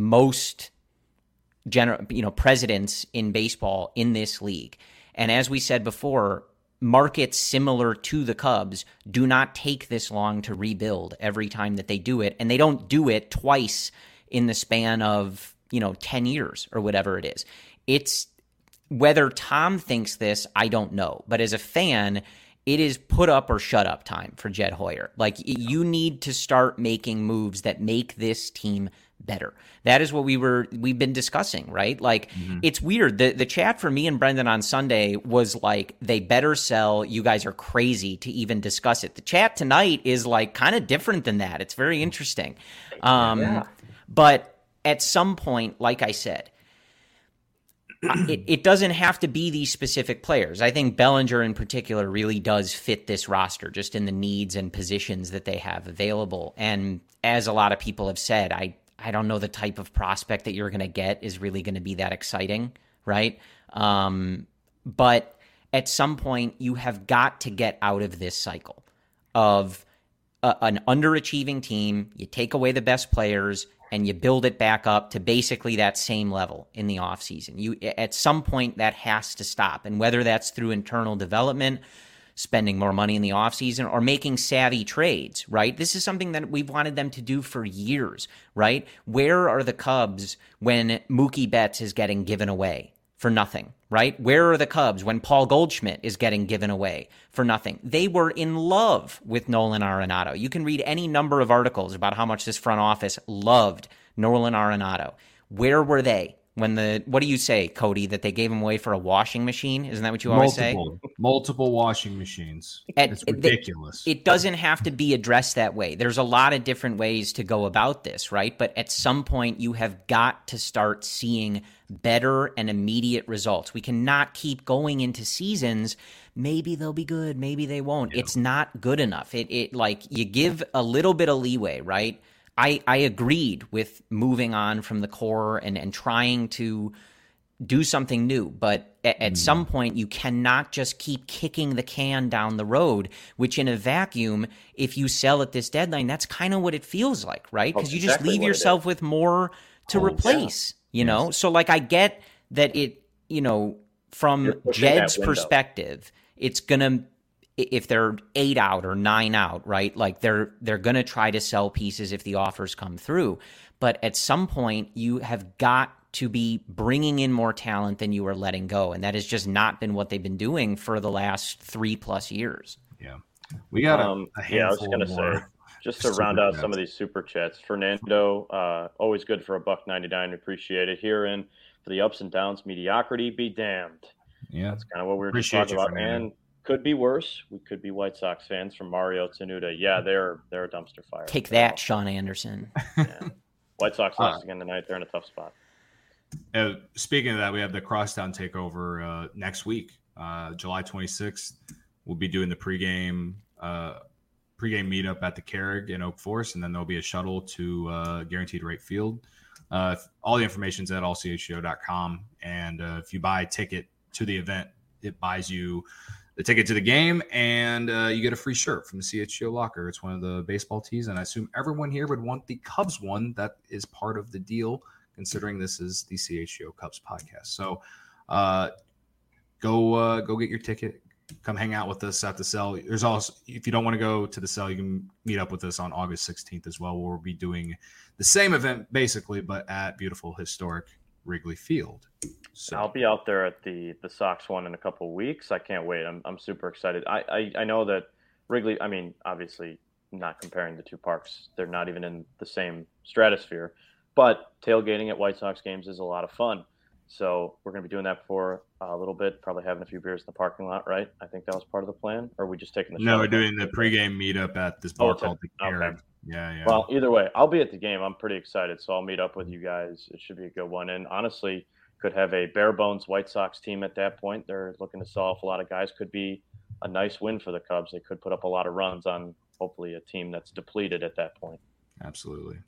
most general, you know, presidents in baseball in this league. And as we said before, markets similar to the Cubs do not take this long to rebuild every time that they do it. And they don't do it twice in the span of, you know, ten years or whatever it is. It's whether Tom thinks this, I don't know. But as a fan, it is put up or shut up time for Jed Hoyer. Like, you need to start making moves that make this team better. That is what we were, we've been discussing, right? Like, mm-hmm. It's weird. The the chat for me and Brendan on Sunday was like, they better sell. You guys are crazy to even discuss it. The chat tonight is like kind of different than that. It's very interesting. Um, yeah. But at some point, like I said, it, it doesn't have to be these specific players. I think Bellinger in particular really does fit this roster just in the needs and positions that they have available. And as a lot of people have said, I, I don't know the type of prospect that you're going to get is really going to be that exciting. right? Um, but at some point, you have got to get out of this cycle of a, an underachieving team. You take away the best players and you build it back up to basically that same level in the offseason. You, at some point, that has to stop. And whether that's through internal development, spending more money in the offseason, or making savvy trades, right? This is something that we've wanted them to do for years, right? Where are the Cubs when Mookie Betts is getting given away for nothing, right? Where are the Cubs when Paul Goldschmidt is getting given away for nothing? They were in love with Nolan Arenado. You can read any number of articles about how much this front office loved Nolan Arenado. Where were they when the, what do you say, Cody, that they gave him away for a washing machine? Isn't that what you always multiple, say? Multiple washing machines. At, it's ridiculous. They, it doesn't have to be addressed that way. There's a lot of different ways to go about this, right? But at some point, you have got to start seeing better and immediate results. We cannot keep going into seasons. Maybe they'll be good. Maybe they won't. Yeah. It's not good enough. It, it like you give a little bit of leeway, right? I, I agreed with moving on from the core and, and trying to do something new. But at, at mm. some point, you cannot just keep kicking the can down the road, which in a vacuum, if you sell at this deadline, that's kind of what it feels like, right? Because you exactly just leave yourself with more to oh, replace, yeah. you know? Yes. So, like, I get that it, you know, from Jed's perspective, it's going to, if they're eight out or nine out, right? Like they're they're going to try to sell pieces if the offers come through. But at some point, you have got to be bringing in more talent than you are letting go. And that has just not been what they've been doing for the last three plus years. Yeah. We got a, um, a yeah, I was going to say, just to round out chats. Some of these super chats, Fernando, uh, always good for a buck ninety-nine. Appreciate it. Here in for the ups and downs, mediocrity be damned. Yeah. That's kind of what we were just talking about. Fernando. And could be worse. We could be White Sox fans from Mario Tenuta. Yeah, they're they're a dumpster fire. Take that, Sean Anderson. Yeah. White Sox lost uh, again tonight. They're in a tough spot. Uh, speaking of that, we have the Crosstown Takeover uh, next week, uh, July twenty-sixth. We'll be doing the pregame uh, pregame meetup at the Carrig in Oak Forest, and then there'll be a shuttle to uh, Guaranteed Rate Field. Uh, all the information's at all c h g o dot com, and uh, if you buy a ticket to the event, it buys you the ticket to the game, and uh, you get a free shirt from the C H G O locker. It's one of the baseball tees, and I assume everyone here would want the Cubs one. That is part of the deal, considering this is the C H G O Cubs podcast. So uh, go uh, go get your ticket. Come hang out with us at the cell. There's also, if you don't want to go to the cell, you can meet up with us on August sixteenth as well. We'll be doing the same event basically, but at beautiful historic Wrigley Field. So I'll be out there at the the Sox one in a couple of weeks. I can't wait. I'm I'm super excited. I, I I know that Wrigley, I mean, obviously not comparing the two parks. They're not even in the same stratosphere, but tailgating at White Sox games is a lot of fun. So we're going to be doing that for a little bit, probably having a few beers in the parking lot, right? I think that was part of the plan. Or are we just taking the No, we're doing the pregame meetup at this bar oh, called the Carrig. Okay. Yeah, yeah. Well, either way, I'll be at the game. I'm pretty excited, so I'll meet up with you guys. It should be a good one. And honestly, could have a bare bones White Sox team at that point. They're looking to sell off a lot of guys. Could be a nice win for the Cubs. They could put up a lot of runs on hopefully a team that's depleted at that point. Absolutely.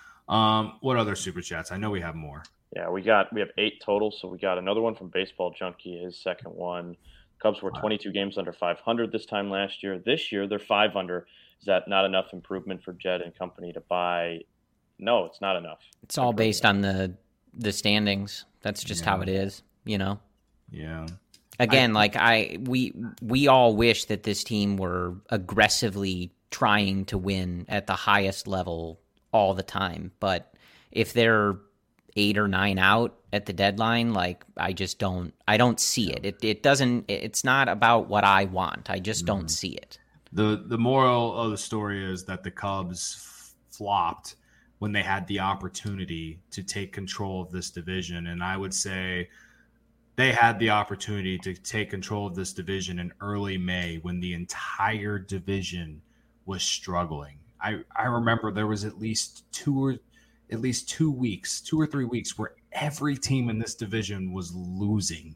Um, what other super chats? I know we have more. Yeah, we got we have eight total. So we got another one from Baseball Junkie, his second one. Cubs were twenty-two games under five hundred this time last year. This year they're five under. Is that not enough improvement for Jed and company to buy? No, it's not enough. It's all based on the the standings. That's just yeah. how it is, you know. Yeah. Again, I, like I we we all wish that this team were aggressively trying to win at the highest level all the time, but if they're eight or nine out at the deadline, like I just don't I don't see it. It it doesn't it's not about what I want. I just don't mm-hmm. see it. The the moral of the story is that the Cubs f- flopped when they had the opportunity to take control of this division, and I would say they had the opportunity to take control of this division in early May when the entire division was struggling. I, I remember there was at least two or at least two weeks, two or three weeks where every team in this division was losing.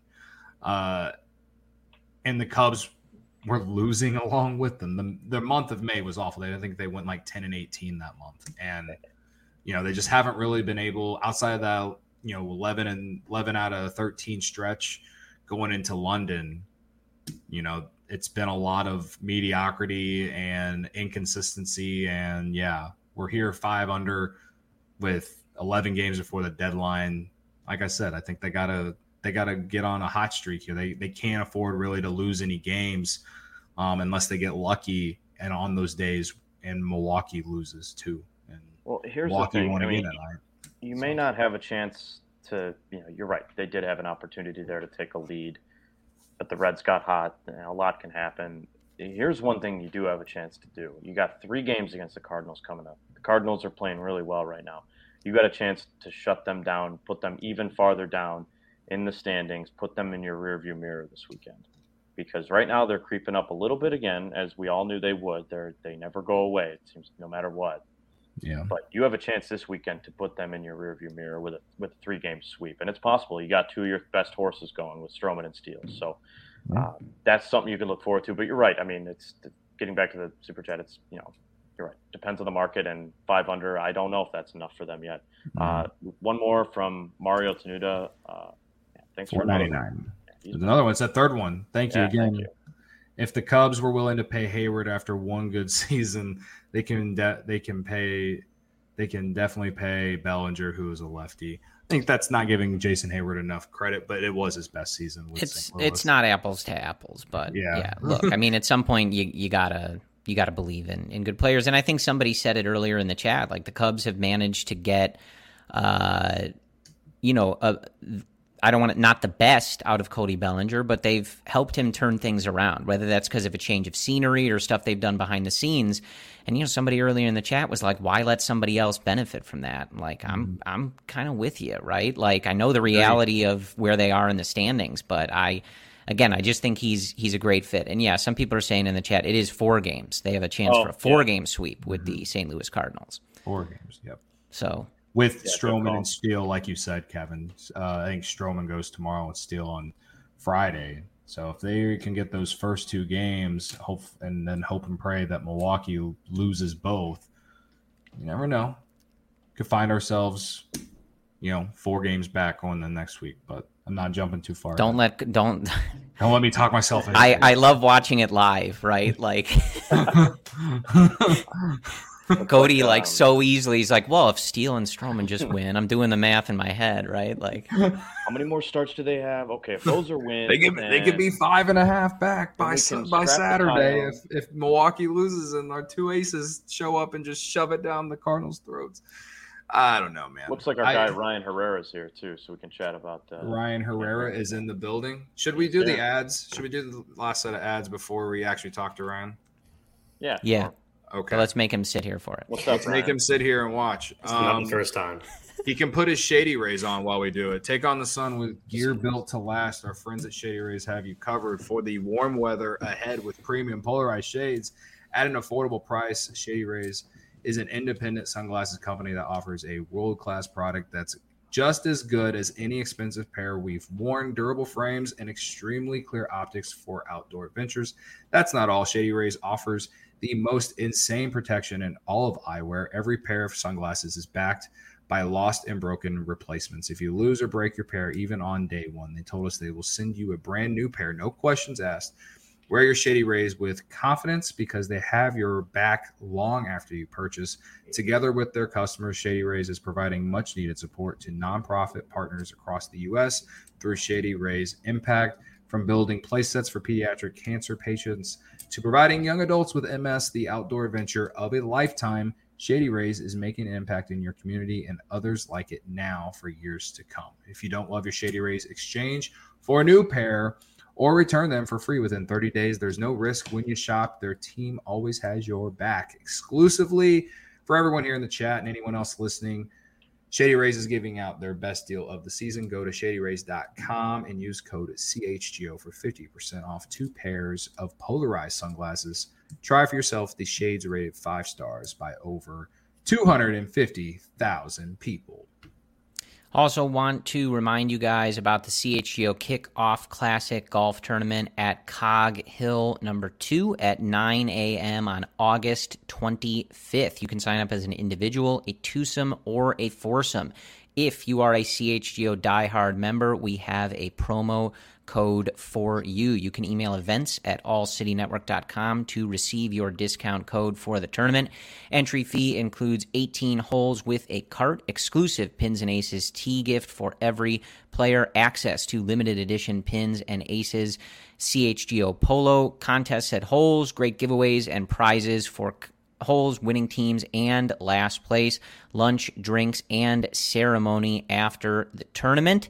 Uh, and the Cubs were losing along with them. The, the month of May was awful. I think they went like ten and eighteen that month. And, you know, they just haven't really been able, outside of that you know, eleven and eleven out of thirteen stretch going into London, you know, it's been a lot of mediocrity and inconsistency. And yeah, we're here five under with eleven games before the deadline. Like I said, I think they gotta they gotta get on a hot streak here. They they can't afford really to lose any games um, unless they get lucky. And on those days, and Milwaukee loses too. And well, here's Milwaukee the thing. won I mean, again tonight. You So- may not have a chance to, you know, you're right. They did have an opportunity there to take a lead, but the Reds got hot. You know, a lot can happen. Here's one thing you do have a chance to do. You got three games against the Cardinals coming up. The Cardinals are playing really well right now. You got a chance to shut them down, put them even farther down in the standings, put them in your rearview mirror this weekend. Because right now they're creeping up a little bit again, as we all knew they would. They're they never go away, it seems, no matter what. Yeah. But you have a chance this weekend to put them in your rearview mirror with a with a three game sweep, and it's possible. You got two of your best horses going with Stroman and Steele, so um, that's something you can look forward to. But you're right. I mean, it's getting back to the super chat. It's you know, you're right. Depends on the market, and five under. I don't know if that's enough for them yet. Uh, one more from Mario Tenuta. Uh, yeah, thanks for four ninety-nine. Yeah, he's- There's another one. It's that third one. Thank you Yeah, again. thank you. If the Cubs were willing to pay Hayward after one good season, they can de- they can pay they can definitely pay Bellinger, who is a lefty. I think that's not giving Jason Hayward enough credit, but it was his best season. With It's Saint Louis. it's not apples to apples, but Yeah. yeah. Look, I mean, at some point you you gotta you gotta believe in in good players, and I think somebody said it earlier in the chat. Like the Cubs have managed to get, uh, you know, a. I don't want it not the best out of Cody Bellinger, but they've helped him turn things around, whether that's because of a change of scenery or stuff they've done behind the scenes. And, you know, somebody earlier in the chat was like, why let somebody else benefit from that? Like, I'm, I'm kind of with you, right? Like, I know the reality of where they are in the standings, but I, again, I just think he's, he's a great fit. And yeah, some people are saying in the chat, it is four games. They have a chance Oh, for a four yeah. game sweep with the Saint Louis Cardinals. Four games. Yep. So With Yeah, good Stroman call. and Steele, like you said, Kevin. Uh, I think Stroman goes tomorrow and Steele on Friday. So if they can get those first two games, hope and then hope and pray that Milwaukee loses both, you never know. Could find ourselves, you know, four games back on the next week. But I'm not jumping too far. don't let, don't, Don't let me talk myself into I, it. I love watching it live, right? Like, Cody, like, um, so easily, he's like, well, if Steele and Stroman just win, I'm doing the math in my head, right? Like, How many more starts do they have? Okay, if those are wins, They could they could be then- five and a half back Then by we Su- can by strap the Saturday pile. if if Milwaukee loses and our two aces show up and just shove it down the Cardinals' throats. I don't know, man. Looks like our I- guy Ryan Herrera's here too, so we can chat about. Uh, Ryan Herrera Herrera is in the building. Should we do the Yeah. ads? Should we do the last set of ads before we actually talk to Ryan? Yeah, yeah. sure. Okay. So let's make him sit here for it. What's up, Let's make Ryan? him sit here and watch. It's not Um, the first time. he can put his Shady Rays on while we do it. Take on the sun with Gear built to last. Our friends at Shady Rays have you covered for the warm weather ahead with premium polarized shades at an affordable price. Shady Rays is an independent sunglasses company that offers a world-class product that's just as good as any expensive pair we've worn. Durable frames and extremely clear optics for outdoor adventures. That's not all. Shady Rays offers the most insane protection in all of eyewear. Every pair of sunglasses is backed by lost and broken replacements. If you lose or break your pair, even on day one, they told us they will send you a brand new pair, no questions asked. Wear your Shady Rays with confidence because they have your back long after you purchase. Together with their customers, Shady Rays is providing much needed support to nonprofit partners across the U S through Shady Rays Impact. From building play sets for pediatric cancer patients to providing young adults with M S the outdoor adventure of a lifetime, Shady Rays is making an impact in your community and others like it now for years to come. If you don't love your Shady Rays, exchange for a new pair or return them for free within thirty days. There's no risk when you shop. Their team always has your back. Exclusively for everyone here in the chat and anyone else listening, Shady Rays is giving out their best deal of the season. Go to shady rays dot com and use code C H G O for fifty percent off two pairs of polarized sunglasses. Try for yourself the shades rated five stars by over two hundred fifty thousand people. Also want to remind you guys about the C H G O Kickoff Classic Golf Tournament at Cog Hill number two at nine a.m. on August twenty-fifth. You can sign up as an individual, a twosome, or a foursome. if you are a C H G O diehard member, we have a promo code for you. You can email events at all city network dot com to receive your discount code for the tournament. Entry fee includes eighteen holes with a cart, exclusive Pins and Aces tee gift for every player, access to limited edition Pins and Aces C H G O Polo, contests at holes, great giveaways and prizes for holes, winning teams, and last place, lunch, drinks, and ceremony after the tournament.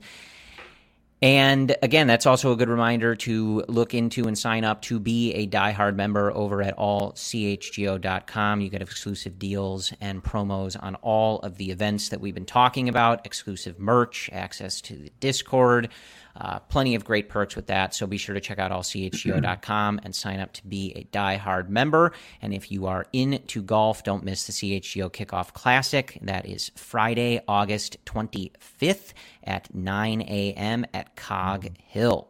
And again, that's also a good reminder to look into and sign up to be a diehard member over at all C H G O dot com. You get exclusive deals and promos on all of the events that we've been talking about, exclusive merch, access to the Discord, uh, plenty of great perks with that. So be sure to check out all C H G O dot com and sign up to be a diehard member. And if you are into golf, don't miss the C H G O Kickoff Classic. That is Friday, August twenty-fifth at nine a.m. at Cog Hill.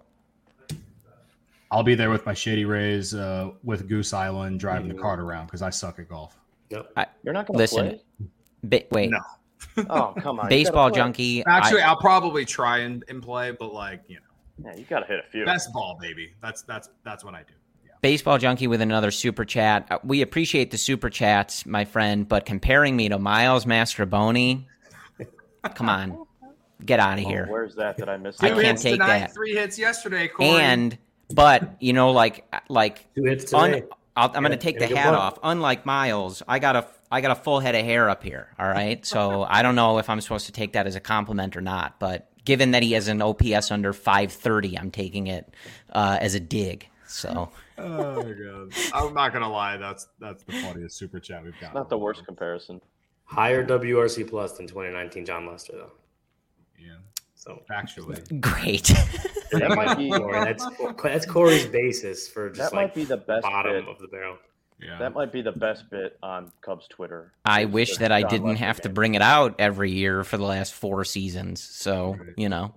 I'll be there with my Shady Rays uh, with Goose Island driving the cart around because I suck at golf. Nope. I, You're not going to listen, play? Ba- wait. No. Oh, come on. Baseball junkie. Actually, I, I'll probably try and, and play, but like, you know. Yeah, you got to hit a few. Best ball, baby. That's that's that's what I do. Yeah. Baseball junkie with another super chat. Uh, We appreciate the super chats, my friend, but comparing me to Miles Mastrobuoni, come on. Get out of Oh, here. where's that? Did I miss I that? Two can't hits take tonight, that. Three hits yesterday, Corey. And, but, you know, like, like, Two hits un, today. I'll, I'm going to Yeah, take yeah, the good hat point. off. Unlike Miles, I got a, I got a full head of hair up here. All right. So I don't know if I'm supposed to take that as a compliment or not, but given that he has an O P S under five thirty, I'm taking it uh, as a dig. So Oh my god! I'm not gonna lie. That's that's the funniest super chat we've got. Not the worst comparison. Higher W R C plus than twenty nineteen John Lester, though. Yeah, So factually. great. That might be Corey, that's that's Corey's basis for just that like might be the best bottom bit. of the barrel. Yeah. That might be the best bit on Cubs Twitter. I Is wish the that I John didn't Lester have to game. bring it out every year for the last four seasons. So, Right. you know.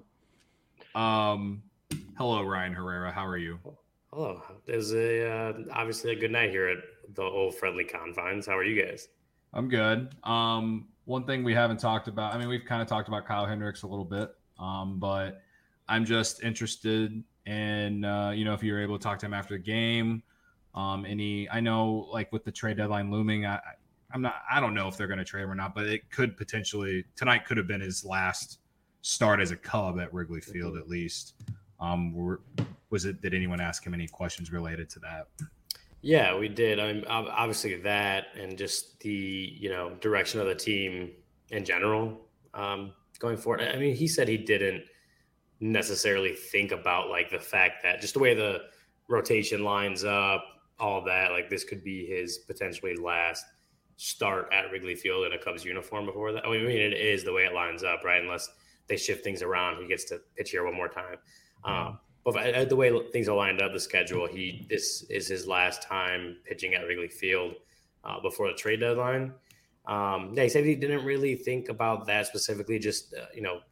Um. Hello, Ryan Herrera. How are you? Hello. It was a uh, obviously a good night here at the old friendly confines. How are you guys? I'm good. Um, one thing we haven't talked about, I mean, we've kind of talked about Kyle Hendricks a little bit, um, but I'm just interested in, uh, you know, if you're able to talk to him after the game. Um, any, I know, like with the trade deadline looming, I, I- I'm not, I don't know if they're going to trade him or not, but it could potentially, tonight could have been his last start as a Cub at Wrigley Field, at least. Um, were, was it, did anyone ask him any questions related to that? Yeah, we did. I mean, ob- obviously that, and just the you know direction of the team in general um, going forward. I mean, he said he didn't necessarily think about like the fact that just the way the rotation lines up, all that. Like this could be his potentially last start at Wrigley Field in a Cubs uniform before that. I mean, it is the way it lines up, right? Unless they shift things around, he gets to pitch here one more time. Um, but uh, the way things are lined up, the schedule, he this is his last time pitching at Wrigley Field uh, before the trade deadline. Um, yeah, he said he didn't really think about that specifically. Just uh, you know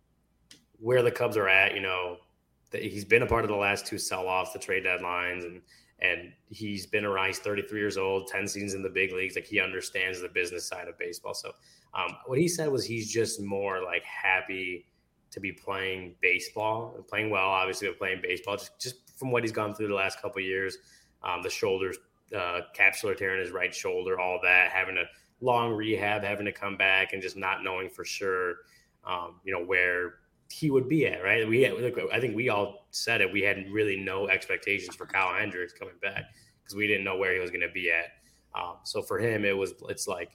where the Cubs are at. You know, that he's been a part of the last two sell-offs, the trade deadlines, and and he's been around. He's thirty-three years old, ten seasons in the big leagues. Like he understands the business side of baseball. So um, what he said was he's just more like happy to be playing baseball and playing well, obviously, but playing baseball just, just from what he's gone through the last couple of years. Um, the shoulders, uh, capsular tear in his right shoulder, all that, having a long rehab, having to come back and just not knowing for sure, um, you know, where he would be at, right? We had, look, I think we all said it. We had really no expectations for Kyle Hendricks coming back because we didn't know where he was going to be at. Um, so for him, it was, it's like,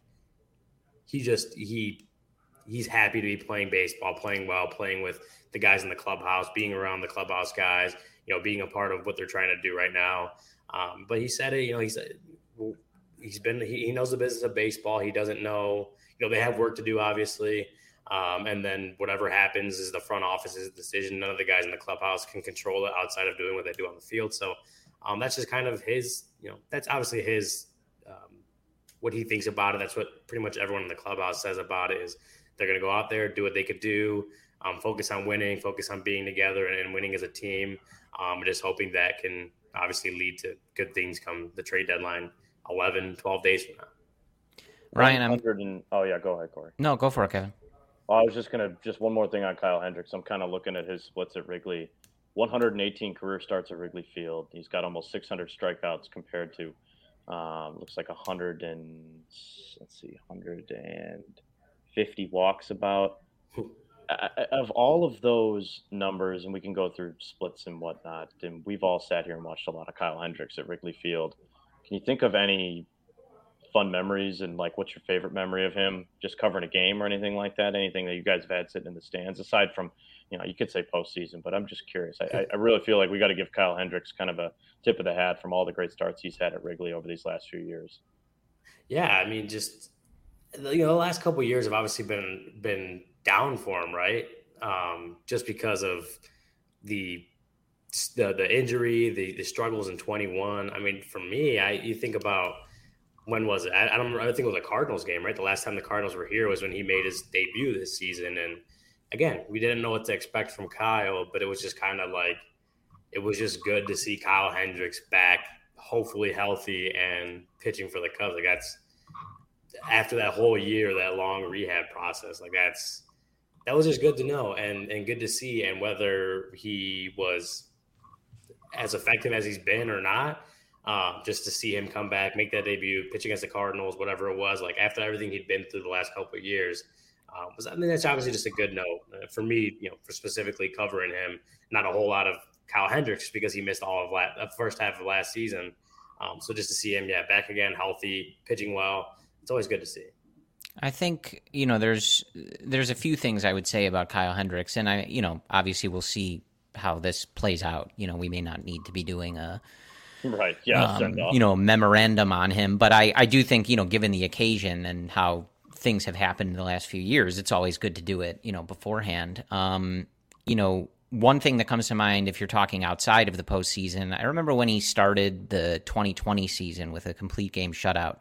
he just, he, he's happy to be playing baseball, playing well, playing with the guys in the clubhouse, being around the clubhouse guys, you know, being a part of what they're trying to do right now. Um, but he said it, you know, he said, he's been, he, he knows the business of baseball. He doesn't know, you know, they have work to do, obviously. Um, and then whatever happens is the front office's decision. None of the guys in the clubhouse can control it outside of doing what they do on the field. So um, that's just kind of his, you know, that's obviously his, um, what he thinks about it. That's what pretty much everyone in the clubhouse says about it is they're going to go out there, do what they could do, um, focus on winning, focus on being together and, and winning as a team. Um, just hoping that can obviously lead to good things come the trade deadline eleven, twelve days from now. Ryan, I'm And, oh, yeah, go ahead, Corey. no, go for it, Kevin. Well, I was just gonna just one more thing on Kyle Hendricks. I'm kind of looking at his splits at Wrigley. one hundred eighteen career starts at Wrigley Field. He's got almost six hundred strikeouts compared to um, looks like one hundred and let's see, one hundred fifty walks about. Of all of those numbers, and we can go through splits and whatnot, and we've all sat here and watched a lot of Kyle Hendricks at Wrigley Field. Can you think of any fun memories, and like what's your favorite memory of him just covering a game or anything like that? Anything that you guys have had sitting in the stands aside from, you know, you could say postseason, but I'm just curious. I, I really feel like we got to give Kyle Hendricks kind of a tip of the hat from all the great starts he's had at Wrigley over these last few years. Yeah, I mean, just you know, the last couple of years have obviously been been down for him, right? Um, just because of the the the injury, the the struggles in twenty-one. I mean, for me, I you think about when was it? I, I don't. I think it was a Cardinals game, right? The last time the Cardinals were here was when he made his debut this season, and again, we didn't know what to expect from Kyle, but it was just kind of like it was just good to see Kyle Hendricks back, hopefully healthy and pitching for the Cubs. Like that's after that whole year, that long rehab process. Like that's that was just good to know and and good to see. And whether he was as effective as he's been or not, um, just to see him come back, make that debut, pitch against the Cardinals, whatever it was, like after everything he'd been through the last couple of years, um, was I mean that's obviously just a good note uh, for me. You know, for specifically covering him, not a whole lot of Kyle Hendricks because he missed all of la- the first half of last season. Um, so just to see him, yeah, back again, healthy, pitching well. It's always good to see. I think, you know, there's there's a few things I would say about Kyle Hendricks, and I, you know, obviously we'll see how this plays out. You know, we may not need to be doing a right, yeah, um, you know, memorandum on him, but I, I do think, you know, given the occasion and how things have happened in the last few years, it's always good to do it, you know, beforehand. Um, you know, one thing that comes to mind if you're talking outside of the postseason, I remember when he started the twenty twenty season with a complete game shutout.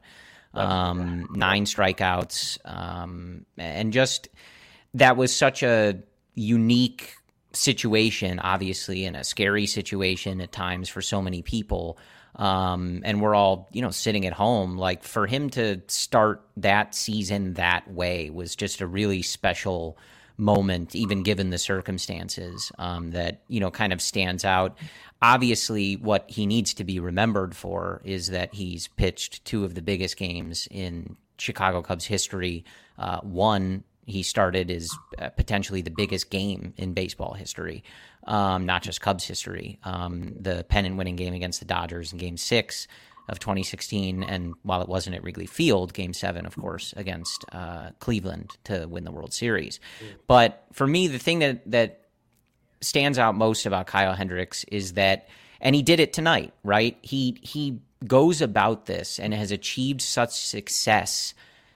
Um, nine strikeouts, um, and just that was such a unique situation, obviously, and a scary situation at times for so many people. Um, and we're all, you know, sitting at home. Like for him to start that season that way was just a really special moment, even given the circumstances, um, that, you know, kind of stands out. Obviously, what he needs to be remembered for is that he's pitched two of the biggest games in Chicago Cubs history. Uh, one, he started as uh, potentially the biggest game in baseball history, um, not just Cubs history. Um, the pennant-winning game against the Dodgers in Game Six of twenty sixteen, and while it wasn't at Wrigley Field, Game Seven, of course, against uh, Cleveland to win the World Series. Mm. But for me, the thing that that stands out most about Kyle Hendricks is that, and he did it tonight, right? He he goes about this and has achieved such success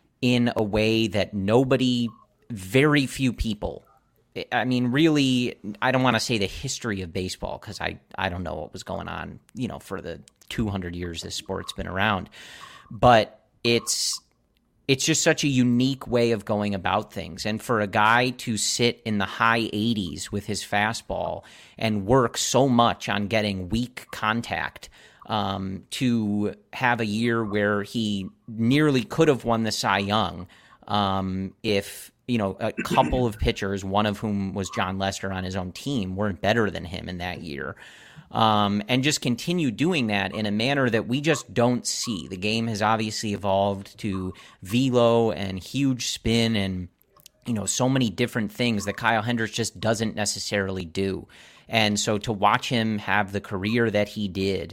in a way that nobody, very few people, I mean, really, I don't want to say the history of baseball because I, I don't know what was going on, you know, for the two hundred years this sport's been around, but it's It's just such a unique way of going about things. And for a guy to sit in the high eighties with his fastball and work so much on getting weak contact, um, to have a year where he nearly could have won the Cy Young um, if, you know, a couple of pitchers, one of whom was John Lester on his own team, weren't better than him in that year. Um, and just continue doing that in a manner that we just don't see. The game has obviously evolved to velo and huge spin and, you know, so many different things that Kyle Hendricks just doesn't necessarily do. And so to watch him have the career that he did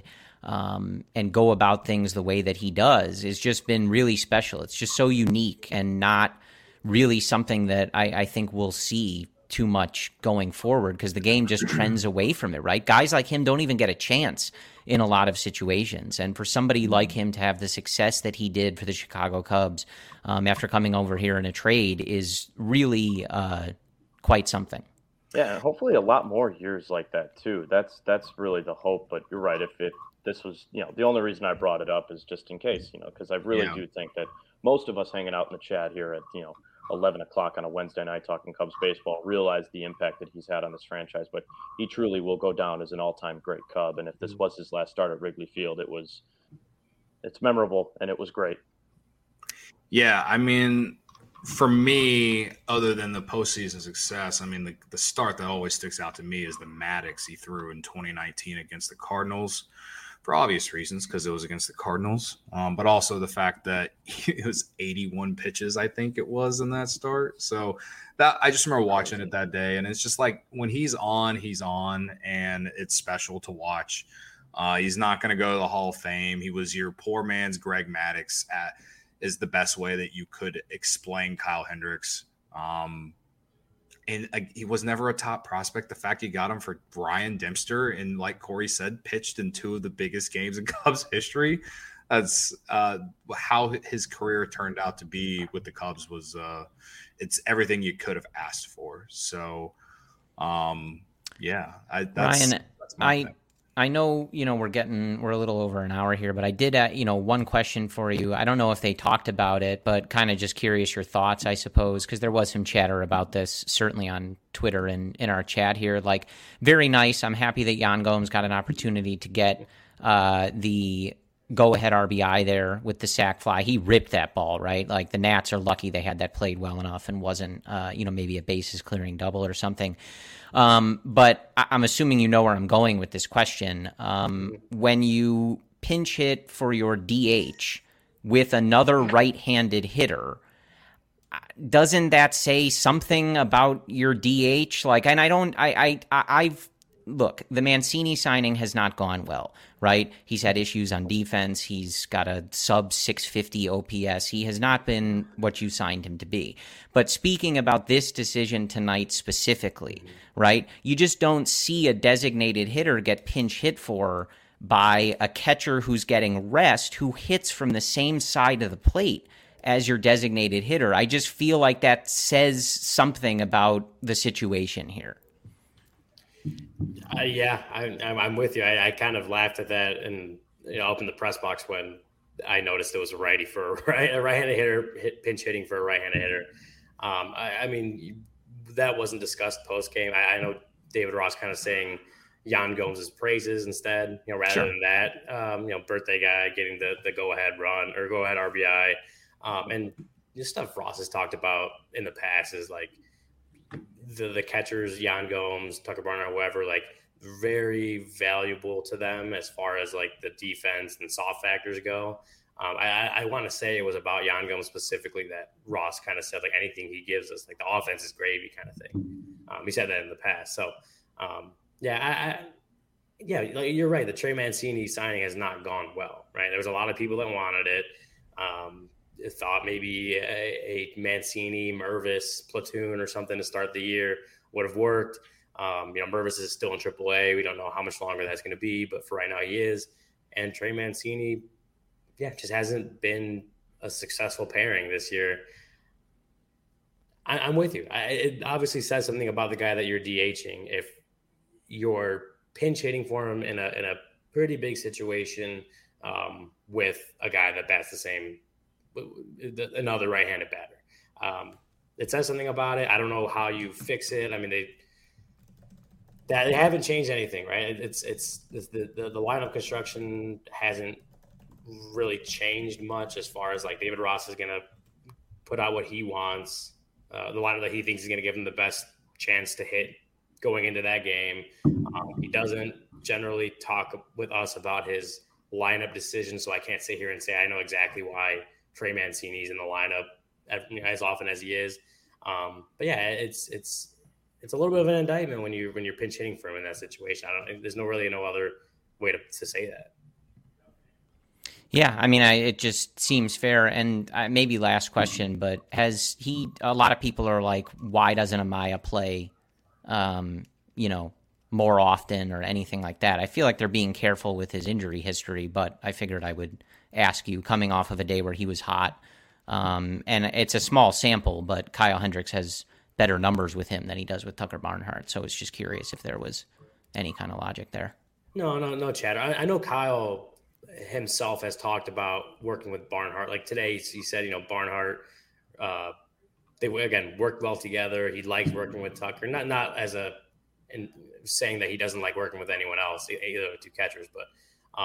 um, and go about things the way that he does has just been really special. It's just so unique and not really something that I, I think we'll see too much going forward because the game just trends away from it, right? Guys like him don't even get a chance in a lot of situations. And for somebody like him to have the success that he did for the Chicago Cubs um, after coming over here in a trade is really uh, quite something. Yeah, and hopefully a lot more years like that too. That's that's really the hope. But you're right. If if this was, you know, the only reason I brought it up is just in case, you know, because I really yeah. do think that most of us hanging out in the chat here at, you know, eleven o'clock on a Wednesday night talking Cubs baseball realize the impact that he's had on this franchise, but he truly will go down as an all-time great Cub. And if this was his last start at Wrigley Field, it was, it's memorable and it was great. Yeah. I mean, for me, other than the postseason success, I mean, the, the start that always sticks out to me is the Maddox he threw in twenty nineteen against the Cardinals, for obvious reasons, because it was against the Cardinals, um, but also the fact that it was eighty-one pitches, I think it was, in that start. So that I just remember watching it that day, and it's just like when he's on, he's on, and it's special to watch. Uh, he's not going to go to the Hall of Fame. He was your poor man's Greg Maddux at is the best way that you could explain Kyle Hendricks. Um, and uh, he was never a top prospect. The fact you got him for Brian Dempster and, like Corey said, pitched in two of the biggest games in Cubs history. That's uh, how his career turned out to be with the Cubs was uh, it's everything you could have asked for. So, um, yeah, I, that's, Ryan, that's my I, thing. I know, you know, we're getting, we're a little over an hour here, but I did, uh, you know, one question for you. I don't know if they talked about it, but kind of just curious your thoughts, I suppose, because there was some chatter about this, certainly on Twitter and in our chat here. Like, very nice. I'm happy that Yan Gomes got an opportunity to get uh, the go-ahead R B I there with the sac fly. He ripped that ball, right? Like, the Nats are lucky they had that played well enough and wasn't, uh, you know, maybe a bases clearing double or something. Um, but I- I'm assuming you know where I'm going with this question. Um, when you pinch hit for your D H with another right-handed hitter, doesn't that say something about your D H? Like, and I don't, I, I, I've, look, the Mancini signing has not gone well, right? He's had issues on defense. He's got a sub six fifty O P S. He has not been what you signed him to be. But speaking about this decision tonight specifically, right, you just don't see a designated hitter get pinch hit for by a catcher who's getting rest, who hits from the same side of the plate as your designated hitter. I just feel like that says something about the situation here. Uh, yeah, I, I'm with you. I, I kind of laughed at that and, you know, up in the press box when I noticed it was a righty for a, right, a right-handed hitter hit, pinch hitting for a right-handed hitter. Um, I, I mean, that wasn't discussed post-game. I, I know David Ross kind of saying Yan Gomes' praises instead, you know, rather sure. than that, um, you know, birthday guy getting the, the go-ahead run or go-ahead R B I. Um, and just stuff Ross has talked about in the past is like the, the catchers, Yan Gomes, Tucker Barnhart, whoever, like very valuable to them as far as like the defense and soft factors go. Um, I, I want to say it was about Yan Gomes specifically that Ross kind of said, like, anything he gives us, like the offense is gravy kind of thing. Um, he said that in the past. So, um, yeah, I, I yeah, like, you're right. The Trey Mancini signing has not gone well, right? There was a lot of people that wanted it. Um, thought maybe a, a Mancini Mervis platoon or something to start the year would have worked. Um, you know, Mervis is still in triple A. We don't know how much longer that's going to be, but for right now he is. And Trey Mancini, yeah, just hasn't been a successful pairing this year. I, I'm with you. I, it obviously says something about the guy that you're DHing if you're pinch hitting for him in a in a pretty big situation um, with a guy that bats the same, another right-handed batter. Um, it says something about it. I don't know how you fix it. I mean, they that they haven't changed anything, right? It's it's, it's the, the the lineup construction hasn't really changed much as far as like David Ross is going to put out what he wants, uh, the lineup that he thinks is going to give him the best chance to hit going into that game. Um, he doesn't generally talk with us about his lineup decisions, so I can't sit here and say I know exactly why Trey Mancini's in the lineup as often as he is. Um, but yeah, it's it's it's a little bit of an indictment when you when you're pinch hitting for him in that situation. I don't. There's no really no other way to, to say that. Yeah, I mean, I, it just seems fair. And uh, maybe last question, but has he? A lot of people are like, why doesn't Amaya play? Um, you know, more often or anything like that. I feel like they're being careful with his injury history, but I figured I would ask you, coming off of a day where he was hot. Um, and it's a small sample, but Kyle Hendricks has better numbers with him than he does with Tucker Barnhart. So it's just curious if there was any kind of logic there. No, no, no chatter. I, I know Kyle himself has talked about working with Barnhart. Like today, he said, you know, Barnhart, uh, they again worked well together. He likes working with Tucker, not not as a in saying that he doesn't like working with anyone else, either of the two catchers, but um,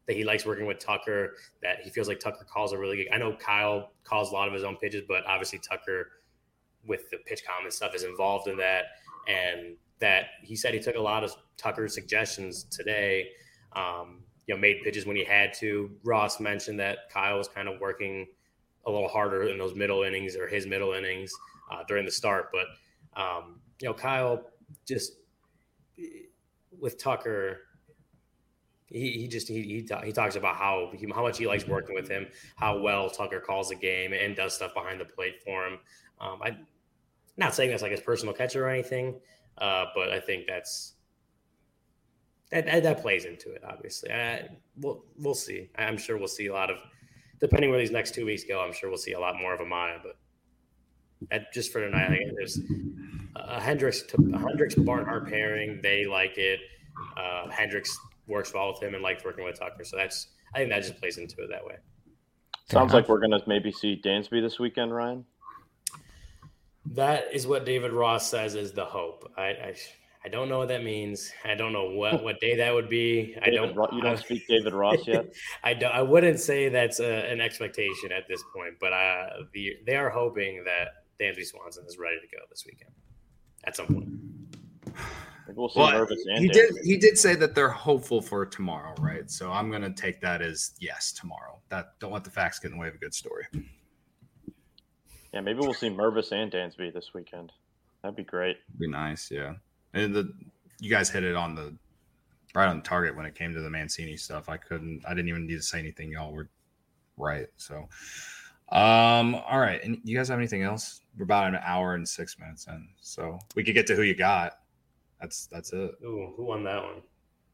that he likes working with Tucker, that he feels like Tucker calls a really good. I know Kyle calls a lot of his own pitches, but obviously Tucker with the pitch comment stuff is involved in that. And that he said he took a lot of Tucker's suggestions today, um, you know, made pitches when he had to. Ross mentioned that Kyle was kind of working a little harder in those middle innings or his middle innings uh, during the start. But, um, you know, Kyle just with Tucker, he, he just he he, he talks about how he, how much he likes working with him, how well Tucker calls the game and does stuff behind the plate for him. Um, I'm not saying that's like his personal catcher or anything, uh, but I think that's that, that, that plays into it. Obviously, I, we'll we'll see. I'm sure we'll see a lot of, depending where these next two weeks go. I'm sure we'll see a lot more of Amaya. But at, just for tonight, I think there's a Hendricks to Hendricks Barnhart pairing. They like it. Uh, Hendricks works well with him and likes working with Tucker. So that's I think that just plays into it that way. Sounds like we're gonna maybe see Dansby this weekend, Ryan. That is what David Ross says is the hope. I, I I don't know what that means. I don't know what, what day that would be. I David, don't. You don't speak David Ross yet. I don't. I wouldn't say that's a, an expectation at this point, but uh, the they are hoping that Dansby Swanson is ready to go this weekend at some point. Maybe we'll see Well, Mervis and he Dansby. did. He did say that they're hopeful for tomorrow, right? So I'm going to take that as yes, tomorrow. That don't let the facts get in the way of a good story. Yeah, maybe we'll see Mervis and Dansby this weekend. That'd be great. Be nice, yeah. And the you guys hit it on the right on target when it came to the Mancini stuff. I couldn't. I didn't even need to say anything. Y'all were right. So, um, all right. And you guys have anything else? We're about an hour and six minutes in, so we could get to who you got. That's that's it. Ooh, who won that one?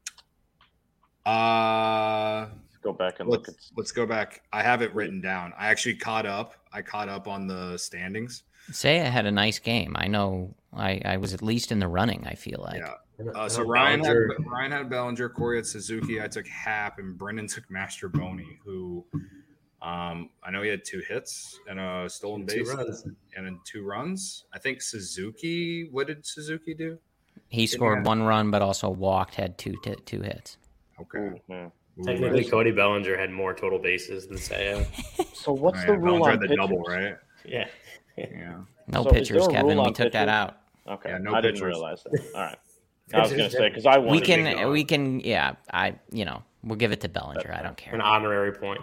Uh, Let's go back and let's, look at. let's go back. I have it written down. I actually caught up. I caught up on the standings. Seiya had a nice game. I know I, I was at least in the running, I feel like. Yeah. Uh, so Ryan had, Ryan had Bellinger, Corey had Suzuki. I took Happ, and Brendan took Master Boney, who um, I know he had two hits and a stolen base and in two runs. I think Suzuki. What did Suzuki do? He scored one run, but also walked, had two t- two hits. Okay. Ooh, yeah. Technically, Cody Bellinger had more total bases than Seiya. So what's Oh, the yeah, rule Bellinger on had the pitchers? double, right? Yeah. Yeah. No So is pitchers, there a Kevin. rule We on took that pitchers? out. Okay, Yeah, no I didn't pitchers. realize that. All right, I was going to say because I wanted We to can, go. we can, yeah. I, you know, we'll give it to Bellinger. I don't care. An honorary point.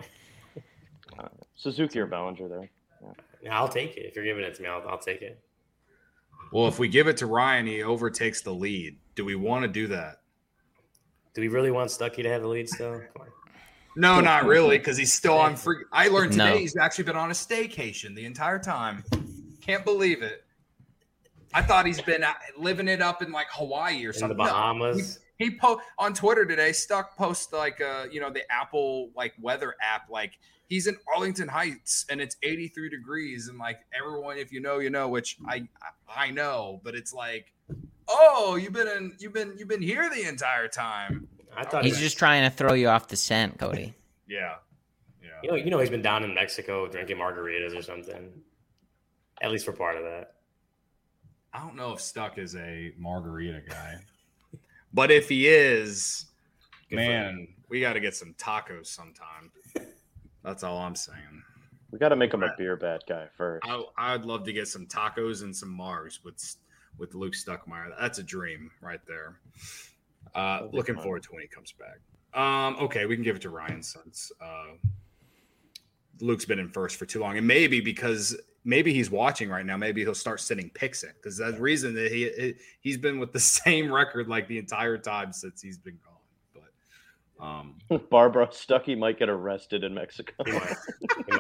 Suzuki or Bellinger there. Yeah, I'll take it. If you're giving it to me, I'll, I'll take it. Well, if we give it to Ryan, he overtakes the lead. Do we want to do that? Do we really want Stuckey to have the lead still? Come on. No, not really, because he's still on free. I learned today No. he's actually been on a staycation the entire time. Can't believe it. I thought he's been living it up in like Hawaii or In the something. No, Bahamas. he he po- on Twitter today. Stuck post like uh you know the Apple like weather app. Like he's in Arlington Heights and it's eighty-three degrees and like everyone, if you know, you know, which I I know, but it's like, oh, you've been in you've been you've been here the entire time. I thought He's he- just trying to throw you off the scent, Cody. Yeah, yeah. You know, you know, he's been down in Mexico drinking margaritas or something. At least for part of that. I don't know if Stuck is a margarita guy, but if he is, Good for man, we got to get some tacos sometime. That's all I'm saying. We got to make him a beer bad guy first. I, I'd love to get some tacos and some Mars with with Luke Stuckmeyer. That's a dream right there. Uh, looking fun. forward to when he comes back. Um, okay, we can give it to Ryan since uh, Luke's been in first for too long, and maybe because maybe he's watching right now. Maybe he'll start sending picks in because that's the reason that he he's been with the same record like the entire time since he's been gone. But um, Barbara Stuckey might get arrested in Mexico. He might. He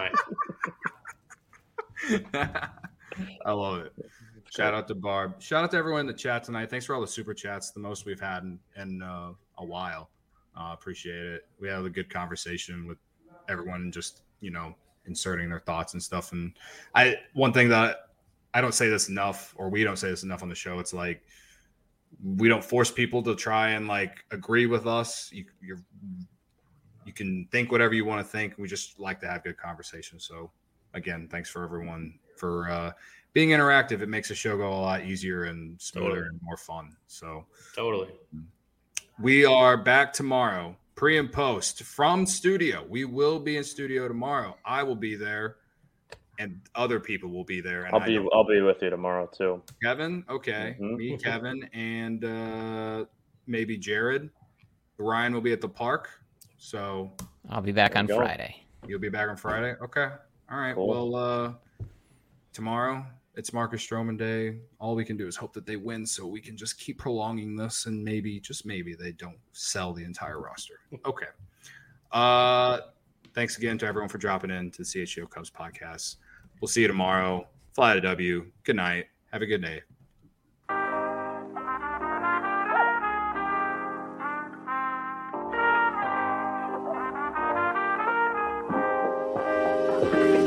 might. I love it. Shout out to Barb. Shout out to everyone in the chat tonight. Thanks for all the super chats, the most we've had in, in uh, a while. Uh, appreciate it. We had a good conversation with everyone, just you know, inserting their thoughts and stuff. And I, one thing that I don't say this enough, or we don't say this enough on the show. It's like we don't force people to try and like agree with us. You, you're, you can think whatever you want to think. We just like to have good conversations. So again, thanks for everyone for uh, being interactive. It makes the show go a lot easier and smoother Totally. and more fun. So Totally. we are back tomorrow pre and post from studio. We will be in studio tomorrow. I will be there, and other people will be there. And I'll be I'll be with you tomorrow too. Kevin, okay, mm-hmm. me, Kevin, and uh, maybe Jared. Ryan will be at the park, so I'll be back on Friday. You'll be back on Friday. Okay, all right. Cool. Well, uh, tomorrow it's Marcus Stroman Day. All we can do is hope that they win, so we can just keep prolonging this, and maybe, just maybe, they don't sell the entire roster. Okay. Uh, thanks again to everyone for dropping in to the C H G O Cubs podcast. We'll see you tomorrow. Fly to W. Good night. Have a good day.